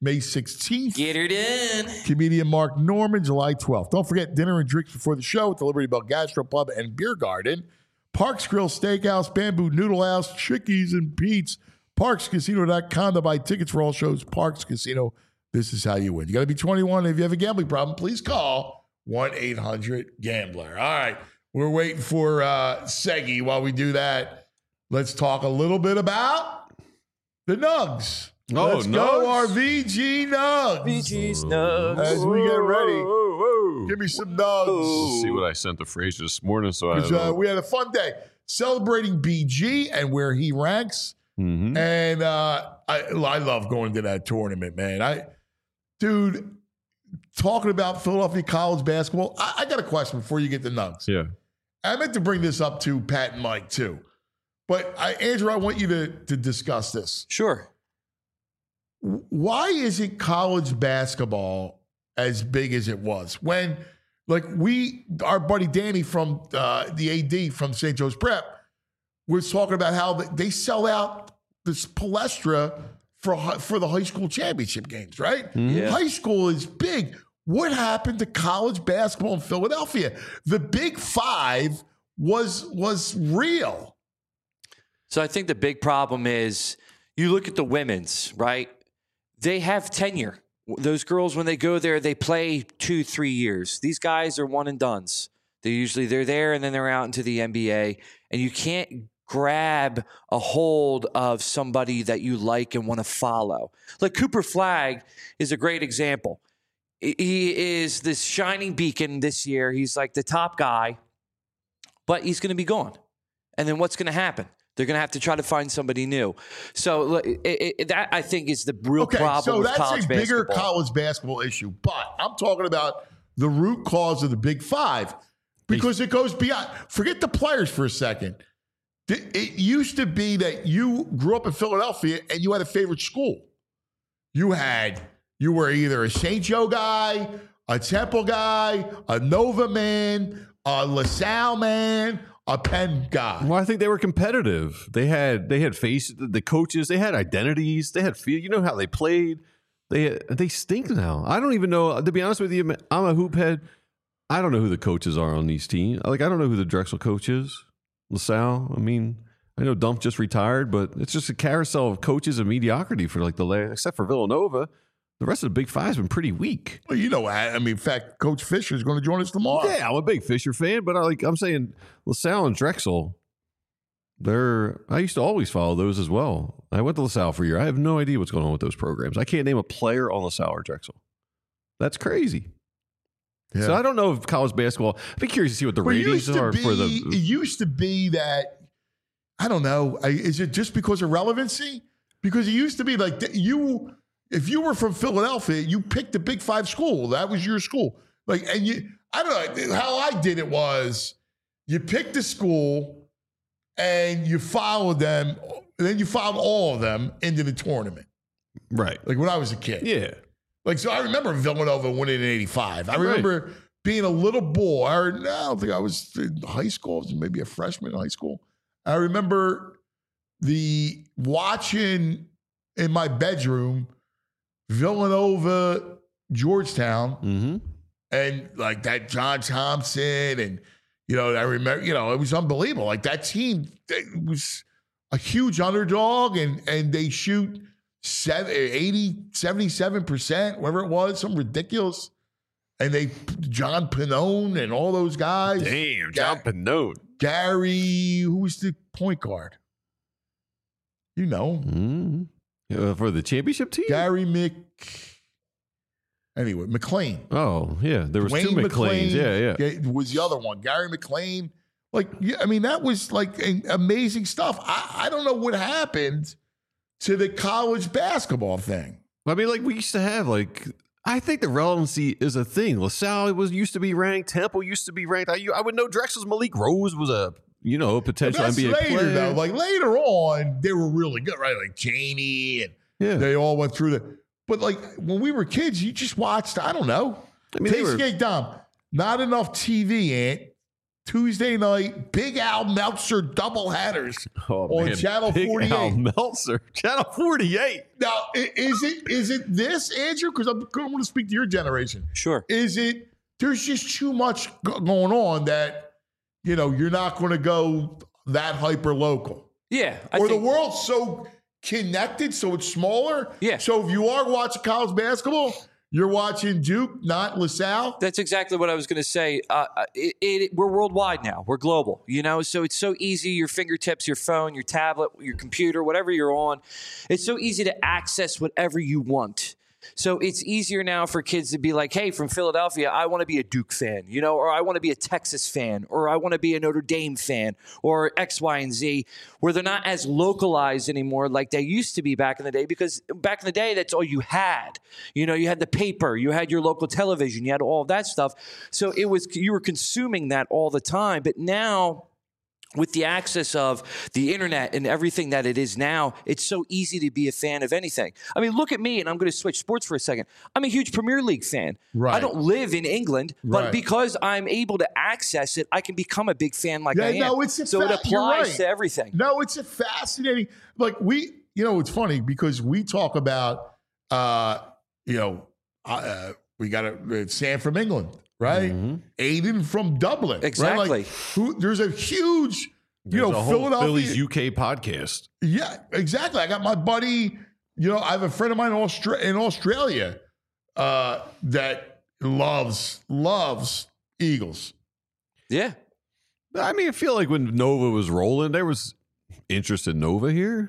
May 16th. Get her done. Comedian Mark Norman, July 12th. Don't forget dinner and drinks before the show at the Liberty Bell Gastropub and Beer Garden. Parks Grill Steakhouse, Bamboo Noodle House, Chickies and Pete's. ParksCasino.com to buy tickets for all shows. Parks Casino, this is how you win. You got to be 21. If you have a gambling problem, please call 1-800-GAMBLER. All right, we're waiting for Seggy. While we do that, let's talk a little bit about the Nugs. Let's go, our VG Nugs. VG's Nugs. As we get ready, give me some Nugs. Let's see what I sent to Frazier this morning. So we had a fun day celebrating BG and where he ranks. Mm-hmm. And I love going to that tournament, man. Dude, talking about Philadelphia college basketball, I got a question before you get the Nugs. Yeah. I meant to bring this up to Pat and Mike too. But Andrew, I want you to discuss this. Sure. Why isn't college basketball as big as it was? When, like, our buddy Danny from the AD from St. Joe's Prep was talking about how they sell out this Palestra for the high school championship games, right? Yeah. High school is big. What happened to college basketball in Philadelphia? The Big Five was real. So I think the big problem is you look at the women's, right? They have tenure. Those girls, when they go there, they play 2-3 years. These guys are one and dones. They're there and then they're out into the NBA. And you can't grab a hold of somebody that you like and want to follow. Like Cooper Flagg is a great example. He is this shining beacon this year. He's like the top guy, but he's going to be gone. And then what's going to happen? They're going to have to try to find somebody new. So that, I think, is the real problem with college basketball. So that's a bigger college basketball issue. But I'm talking about the root cause of the Big Five because it goes beyond. Forget the players for a second. It used to be that you grew up in Philadelphia and you had a favorite school. You were either a St. Joe guy, a Temple guy, a Nova man, a LaSalle man, a Penn guy. Well, I think they were competitive. They had the coaches. They had identities. They had feel. You know how they played. They stink now. I don't even know. To be honest with you, I'm a hoop head. I don't know who the coaches are on these teams. Like I don't know who the Drexel coach is. LaSalle. I mean, I know Dump just retired, but it's just a carousel of coaches and mediocrity for like the last, except for Villanova. The rest of the Big Five's been pretty weak. Well, you know, I mean, in fact, Coach Fisher is going to join us tomorrow. Yeah, I'm a big Fisher fan, but I'm saying LaSalle and Drexel, I used to always follow those as well. I went to LaSalle for a year. I have no idea what's going on with those programs. I can't name a player on LaSalle or Drexel. That's crazy. Yeah. So I don't know if college basketball, I'd be curious to see what the ratings are for the. It used to be that, I don't know, is it just because of relevancy? Because it used to be like if you were from Philadelphia, you picked a Big Five school. That was your school. Like, and I don't know how I did it was you picked a school and you followed them, and then you followed all of them into the tournament. Right. Like when I was a kid. Yeah. Like, so I remember Villanova winning in 85. I remember being a little boy. I don't think I was in high school. I was maybe a freshman in high school. I remember watching in my bedroom Villanova, Georgetown, and like that John Thompson, and I remember, it was unbelievable. Like that team, it was a huge underdog, and they shoot 77%, whatever it was, something ridiculous. And John Pannone and all those guys. Damn, John Pannone. Gary, who was the point guard? You know. For the championship team? Gary McLean. Oh, yeah. There was Dwayne two McLeans. Yeah. Was the other one. Gary McLean. Like, yeah, I mean, that was like amazing stuff. I don't know what happened to the college basketball thing. I mean, like we used to have, I think the relevancy is a thing. LaSalle used to be ranked. Temple used to be ranked. I would know Drexel's Malik Rose was a potential NBA player. Though. Like later on, they were really good, right? Like Chaney and they all went through but like when we were kids, you just watched, I don't know. I mean, Skate Dom. Not enough TV, Ant. Tuesday night, Big Al Meltzer doubleheaders on Channel Big 48. Al Meltzer, Channel 48. Now, is it this, Andrew? Because I'm going to speak to your generation. Sure. Is it, there's just too much going on that, you know, you're not going to go that hyper local. Yeah. Or the world's so connected, so it's smaller. Yeah. So if you are watching college basketball, you're watching Duke, not LaSalle. That's exactly what I was going to say. We're worldwide now. We're global, you know, so it's so easy. Your fingertips, your phone, your tablet, your computer, whatever you're on, it's so easy to access whatever you want. So it's easier now for kids to be like, hey, from Philadelphia, I want to be a Duke fan, you know, or I want to be a Texas fan, or I want to be a Notre Dame fan, or X, Y, and Z, where they're not as localized anymore like they used to be back in the day, because back in the day, that's all you had. You know, you had the paper, you had your local television, you had all of that stuff. So you were consuming that all the time. But now, with the access of the internet and everything that it is now, it's so easy to be a fan of anything. I mean, look at me, and I'm going to switch sports for a second. I'm a huge Premier League fan. Right. I don't live in England, but Right. because I'm able to access it, I can become a big fan like I am. No, it's so it you're applies right. to everything. No, it's a fascinating, like you know, it's funny because we talk about, we got Sam from England, right? Mm-hmm. Aiden from Dublin. Exactly. Right? Like, there's a huge, There's a whole Philadelphia. Phillies UK podcast. Yeah, exactly. I got my buddy, I have a friend of mine in Australia that loves Eagles. Yeah. I mean, I feel like when Nova was rolling, there was interest in Nova here.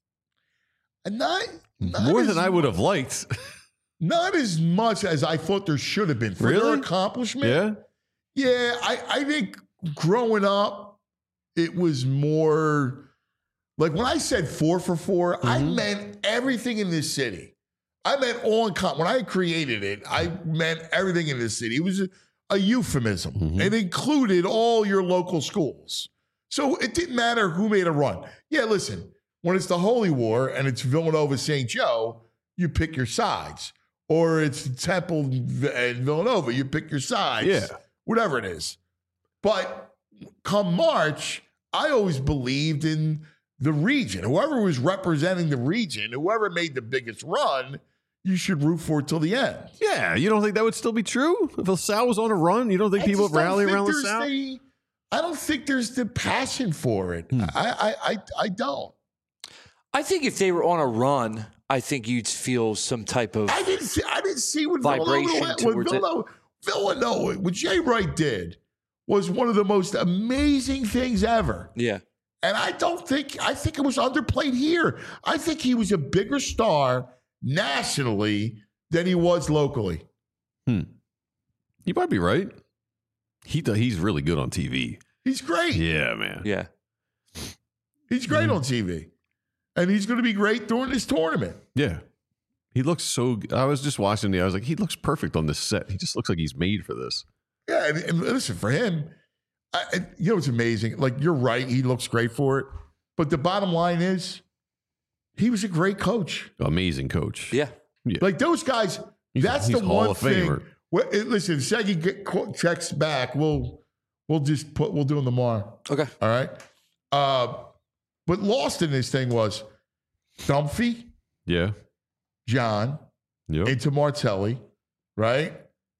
And not More as than I would have liked. Not as much as I thought there should have been for their Really? accomplishment. Yeah. Yeah, I think growing up, it was more like when I said 4 for 4, I meant everything in this city. I meant when I created it, I meant everything in this city. It was a euphemism. It included all your local schools. So it didn't matter who made a run. Yeah, listen, when it's the Holy War and it's Villanova St. Joe, you pick your sides. Or it's Temple and Villanova, you pick your sides. Yeah. Whatever it is. But come March, I always believed in the region. Whoever was representing the region, whoever made the biggest run, you should root for it till the end. Yeah. You don't think that would still be true? If LaSalle was on a run, you don't think people would rally around LaSalle? I don't think there's the passion for it. I don't. I think if they were on a run, I think you'd feel some type of I didn't see what vibration towards it. Villanova, what Jay Wright did was one of the most amazing things ever. Yeah. And I think it was underplayed here. I think he was a bigger star nationally than he was locally. You might be right. He's really good on TV. He's great. Yeah, man. Yeah. He's great on TV. And he's going to be great during this tournament. Yeah. He looks so I was just watching I was like, he looks perfect on this set. He just looks like he's made for this. Yeah, and listen, for him, it's amazing. Like, you're right. He looks great for it. But the bottom line is, he was a great coach. Amazing coach. Yeah. Like, those guys, that's the Hall one of thing. Famer. Well, listen, Shaggy checks back. We'll do them tomorrow. Okay. All right. But lost in this thing was Dumphy, Yeah. John, Yep. into Martelli, right?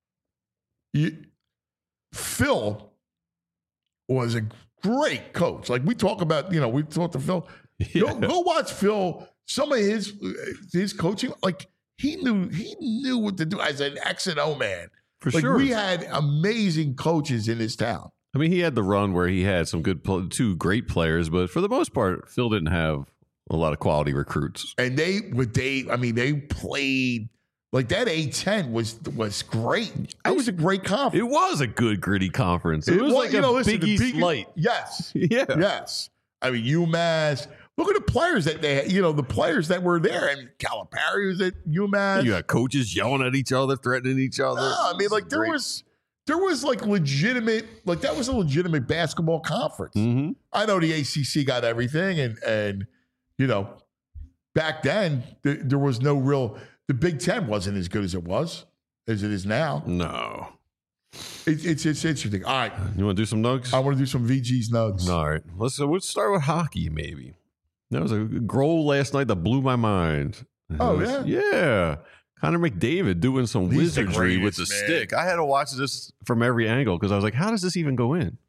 Phil was a great coach. Like, we talk about, we talked to Phil. Yeah. Go watch Phil. Some of his coaching, like, he knew what to do as an X and O man. For Like, sure. we had amazing coaches in this town. I mean, he had the run where he had some two great players, but for the most part, Phil didn't have a lot of quality recruits. And they played like that. A-10 was great. It was a great conference. It was a good gritty conference. It was like a listen, Big the East light. Yes. Yeah. Yes. I mean, UMass. Look at the players that they had, the players that were there. And Calipari was at UMass. You got coaches yelling at each other, threatening each other. No, I mean, like, there was like legitimate, like, that was a legitimate basketball conference. Mm-hmm. I know the ACC got everything, and back then there was no real. The Big Ten wasn't as good as it is now. No. It's interesting. All right. You want to do some nugs? I want to do some VG's nugs. All right. Let's start with hockey, maybe. There was a goal last night that blew my mind. Oh, yeah? Yeah. Connor McDavid doing some He's the wizardry with the greatest, man. stick. I had to watch this from every angle because I was like, how does this even go in?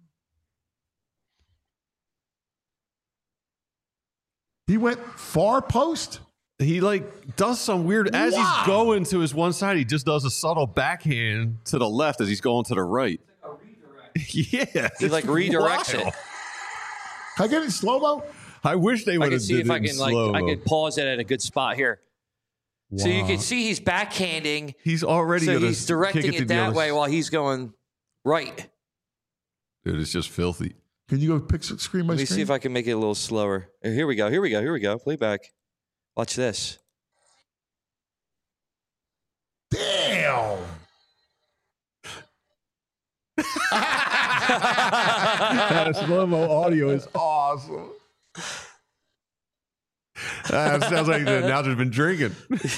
He went far post? He does some weird, as Wow. he's going to his one side, he just does a subtle backhand to the left as he's going to the right. Yeah. He redirects it. Can I get it in slow-mo? I wish they I would can have see did if I it in can slow-mo. I could pause it at a good spot here. So you can see he's backhanding. He's already So gonna he's kick directing to it the that other way s- while he's going right. Dude, it's just filthy. Can you go screen by Let me screen? see if I can make it a little slower. Here we go. Play back. Watch this. Damn. That slow-mo audio is awesome. That sounds like the announcer's been drinking.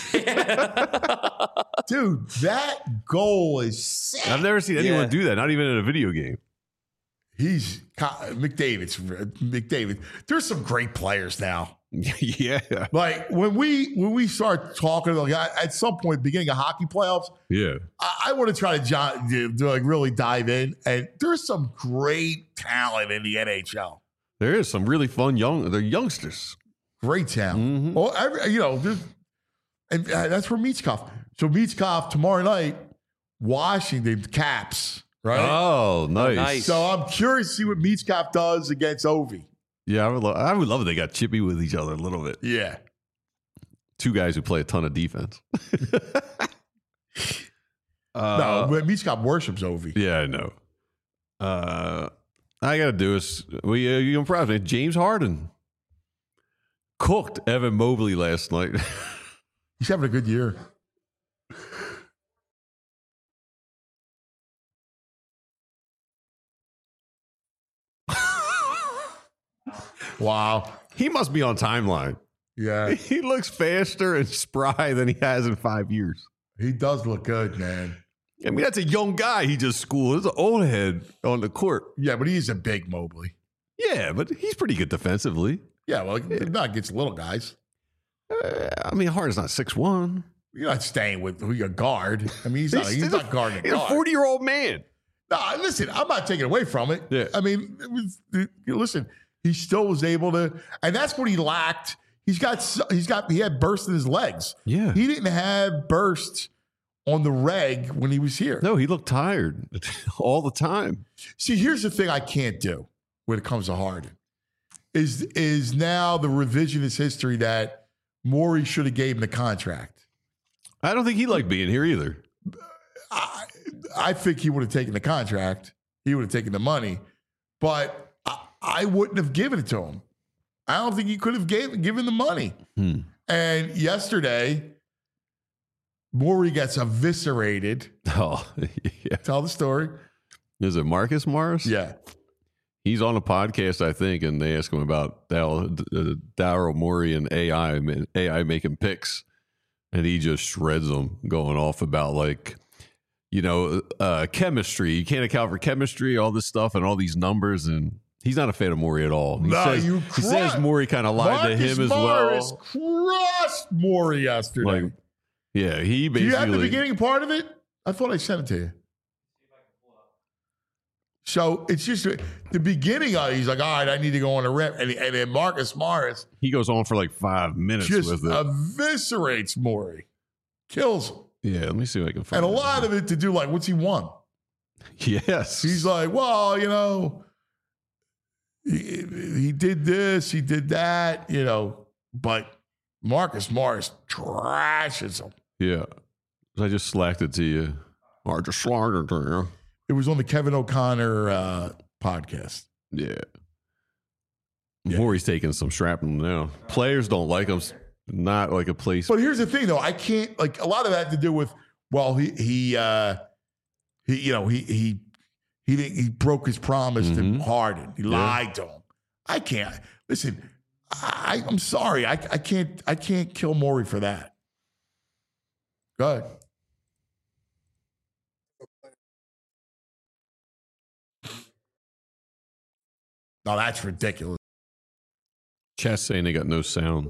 Dude, that goal is sick. I've never seen anyone Yeah. do that, not even in a video game. He's McDavid. There's some great players now. Yeah. Like when we start talking, at some point, beginning of hockey playoffs, Yeah. I want to try to really dive in. And there's some great talent in the NHL. There is some really fun they're youngsters. Great talent. Mhm. Well, and that's where Michkov. So Michkov tomorrow night, Washington Caps, right? Oh, nice. nice. So I'm curious to see what Michkov does against Ovi. Yeah, I would love if they got chippy with each other a little bit. Yeah. Two guys who play a ton of defense. No, but Michkov worships Ovi. Yeah, I know. I got to do is, you impressed me. James Harden cooked Evan Mobley last night. He's having a good year. Wow. He must be on timeline. Yeah. He looks faster and spry than he has in 5 years. He does look good, man. I mean, that's a young guy he just schooled. There's an old head on the court. Yeah, but he's a big Mobley. Yeah, but he's pretty good defensively. Yeah, well, not against little guys. I mean, Harden's not 6'1". You're not staying with who your guard. I mean, he's not guarding a He's a guard. 40-year-old man. No, listen, I'm not taking away from it. Yeah. I mean, listen, he still was able to, and that's what he lacked. He had burst in his legs. Yeah. He didn't have burst on the reg when he was here. No, he looked tired all the time. See, here's the thing I can't do when it comes to Harden is now the revisionist history that Morey should have gave him the contract. I don't think he liked being here either. I think he would have taken the contract. He would have taken the money, but I wouldn't have given it to him. I don't think he could have given the money. And yesterday, Morey gets eviscerated. Oh, yeah. Tell the story. Is it Marcus Morris? Yeah. He's on a podcast, I think, and they ask him about Daryl Morey and AI making picks, and he just shreds them, going off about chemistry. You can't account for chemistry, all this stuff, and all these numbers, and he's not a fan of Morey at all. He says Morey kind of lied to him as Morris well. crushed Morey yesterday. Yeah, he basically. Do you have the beginning part of it? I thought I sent it to you. So it's just the beginning of it. He's like, all right, I need to go on a rip. And then Marcus Morris He goes on for 5 minutes just with it. eviscerates Morey. Kills him. Yeah, let me see if I can find And a lot of it to do what's he won? Yes. He's like, well, he did this, he did that, but Marcus Morris trashes him. Yeah. I just slacked it to you. Or just slacked it to you. It was on the Kevin O'Connor podcast. Yeah. Morey's taking some shrapnel now. Players don't like him. Not like a place. But here's the thing, though. I can't a lot of that had to do with he broke his promise to Harden. He lied to him. I can't listen. I'm sorry. I can't kill Morey for that. Go ahead. No, that's ridiculous. Chat's saying they got no sound.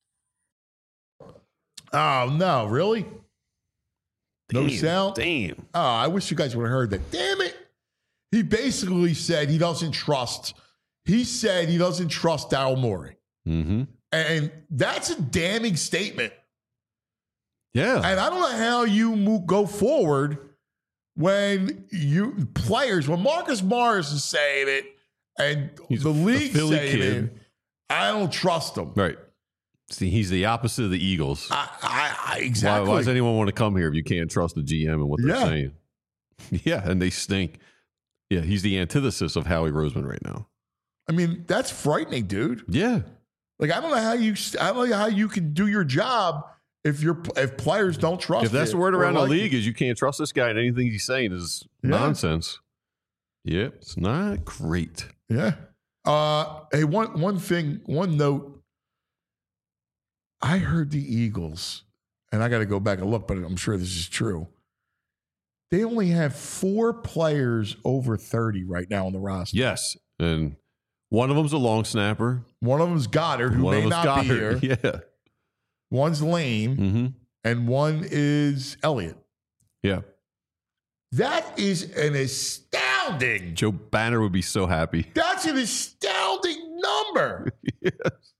Oh, no, really? No sound? Damn. Oh, I wish you guys would have heard that. Damn it. He basically said he doesn't trust. He said he doesn't trust Daryl Morey. Mm-hmm. And that's a damning statement. Yeah. And I don't know how you go forward when when Marcus Morris is saying it and He's the a league Philly saying kid. it, I don't trust him. Right. See, he's the opposite of the Eagles. Exactly. Why does anyone want to come here if you can't trust the GM and what they're saying? Yeah, and they stink. Yeah, he's the antithesis of Howie Roseman right now. I mean, that's frightening, dude. Yeah. Like, I don't know how you can do your job if players don't trust you. If that's the word around the league is you can't trust this guy and anything he's saying is nonsense. Yep, it's not great. Yeah. Hey, one note. I heard the Eagles, and I got to go back and look, but I'm sure this is true. They only have 4 players over 30 right now on the roster. Yes, and one of them's a long snapper. One of them's Goddard, who may not be here. Yeah. One's Lane, and one is Elliott. Yeah. That is an astounding. Joe Banner would be so happy. That's an astounding number. Yes.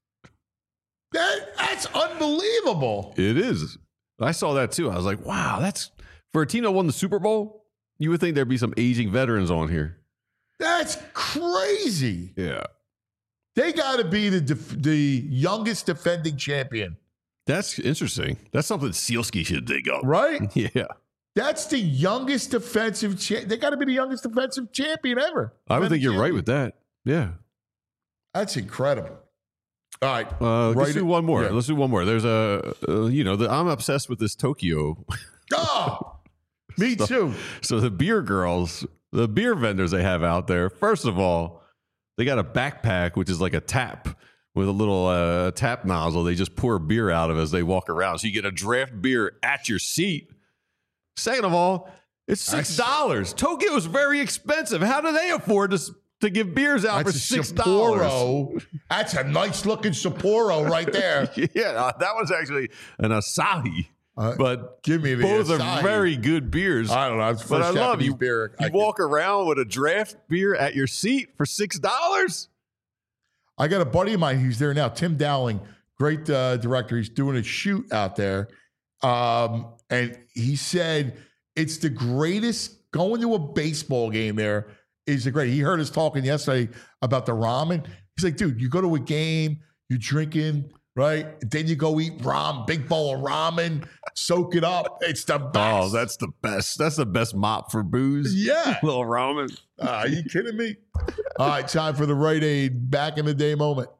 That's unbelievable. It is. I saw that too. I was like, wow, that's for a team that won the Super Bowl. You would think there'd be some aging veterans on here. That's crazy. Yeah. They got to be the youngest defending champion. That's interesting. That's something Sealski should dig up. Right? Yeah. That's the youngest defensive They got to be the youngest defensive champion ever. I would think you're right with that. Yeah. That's incredible. All right. Let's do one more. Yeah. Let's do one more. There's I'm obsessed with this Tokyo. Oh, me too. So the beer girls, the beer vendors they have out there, first of all, they got a backpack, which is like a tap with a little tap nozzle. They just pour beer out of as they walk around. So you get a draft beer at your seat. Second of all, it's $6. Tokyo is very expensive. How do they afford to give beers out for $6? Sapporo. That's a nice looking Sapporo right there. Yeah, that was actually an Asahi. But give me the both Asahi. are very good beers. I don't know. It's but I love you. Beer You walk around with a draft beer at your seat for $6. I got a buddy of mine who's there now, Tim Dowling, great director. He's doing a shoot out there. And he said it's the greatest. Going to a baseball game there is the great. He heard us talking yesterday about the ramen. He's like, dude, you go to a game, you're drinking, right? Then you go eat ramen, big bowl of ramen, soak it up. It's the best. Oh, that's the best. That's the best mop for booze. Yeah. Little ramen. Are you kidding me? All right, time for the Rite Aid back in the day moment.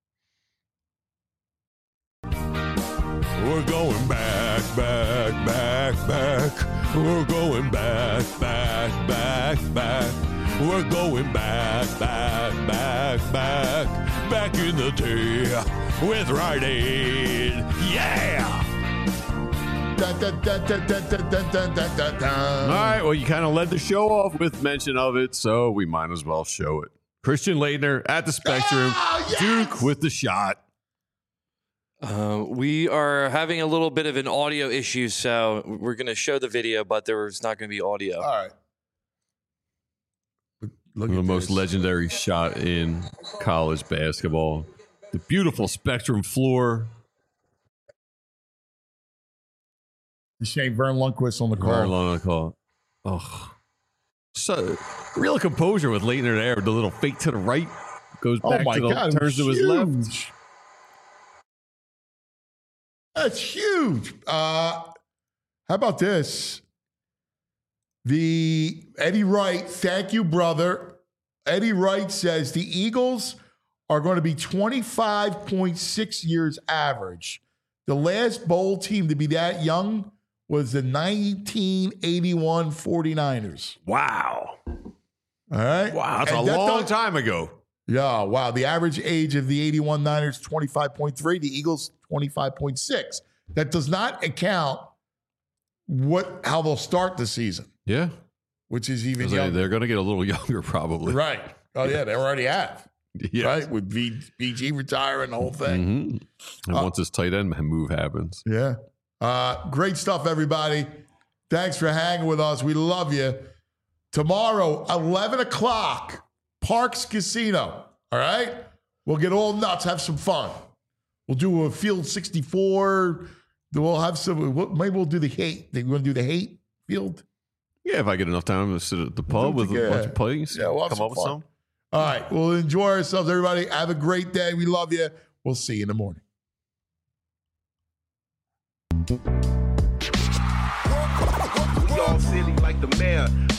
We're going back. We're going back. We're going back in the day with Rite Aid. Yeah! Dun, dun, dun, dun, dun, dun, dun, dun, dun, dun, dun. All right, well, you kind of led the show off with mention of it, so we might as well show it. Christian Laettner at the Spectrum. Oh, yes! Duke with the shot. We are having a little bit of an audio issue, so we're going to show the video, but there's not going to be audio. All right. Look The at most this. legendary shot in college basketball. The beautiful Spectrum floor. Shane Vern Lundquist on the call. Very long on the call. Oh. So, real composure with Laettner there. The little fake to the right. Goes Oh back my to the God! turns to his left. huge. That's huge. How about this? The Eddie Wright, thank you, brother. Eddie Wright says the Eagles are going to be 25.6 years average. The last bowl team to be that young was the 1981 49ers. Wow. All right. Wow. That's And a that long does- time ago. Yeah, wow. The average age of the 81 Niners, 25.3. The Eagles, 25.6. That does not account how they'll start the season, Yeah. which is even 'Cause younger. they're going to get a little younger probably. Right. Oh, yeah, they already have. Yes. right? With BG retiring, the whole thing. And once his tight end move happens. Yeah. Great stuff, everybody. Thanks for hanging with us. We love you. Tomorrow, 11 o'clock, Parks Casino. All right? We'll get all nuts, have some fun. We'll do a Field 64. We'll have some, maybe we'll do the hate. You want to do the hate field? Yeah, if I get enough time to sit at the pub with a bunch of plays, yeah, we'll have come some up with fun. some. All right. We'll enjoy ourselves, everybody. Have a great day. We love you. We'll see you in the morning. We all silly like the mayor.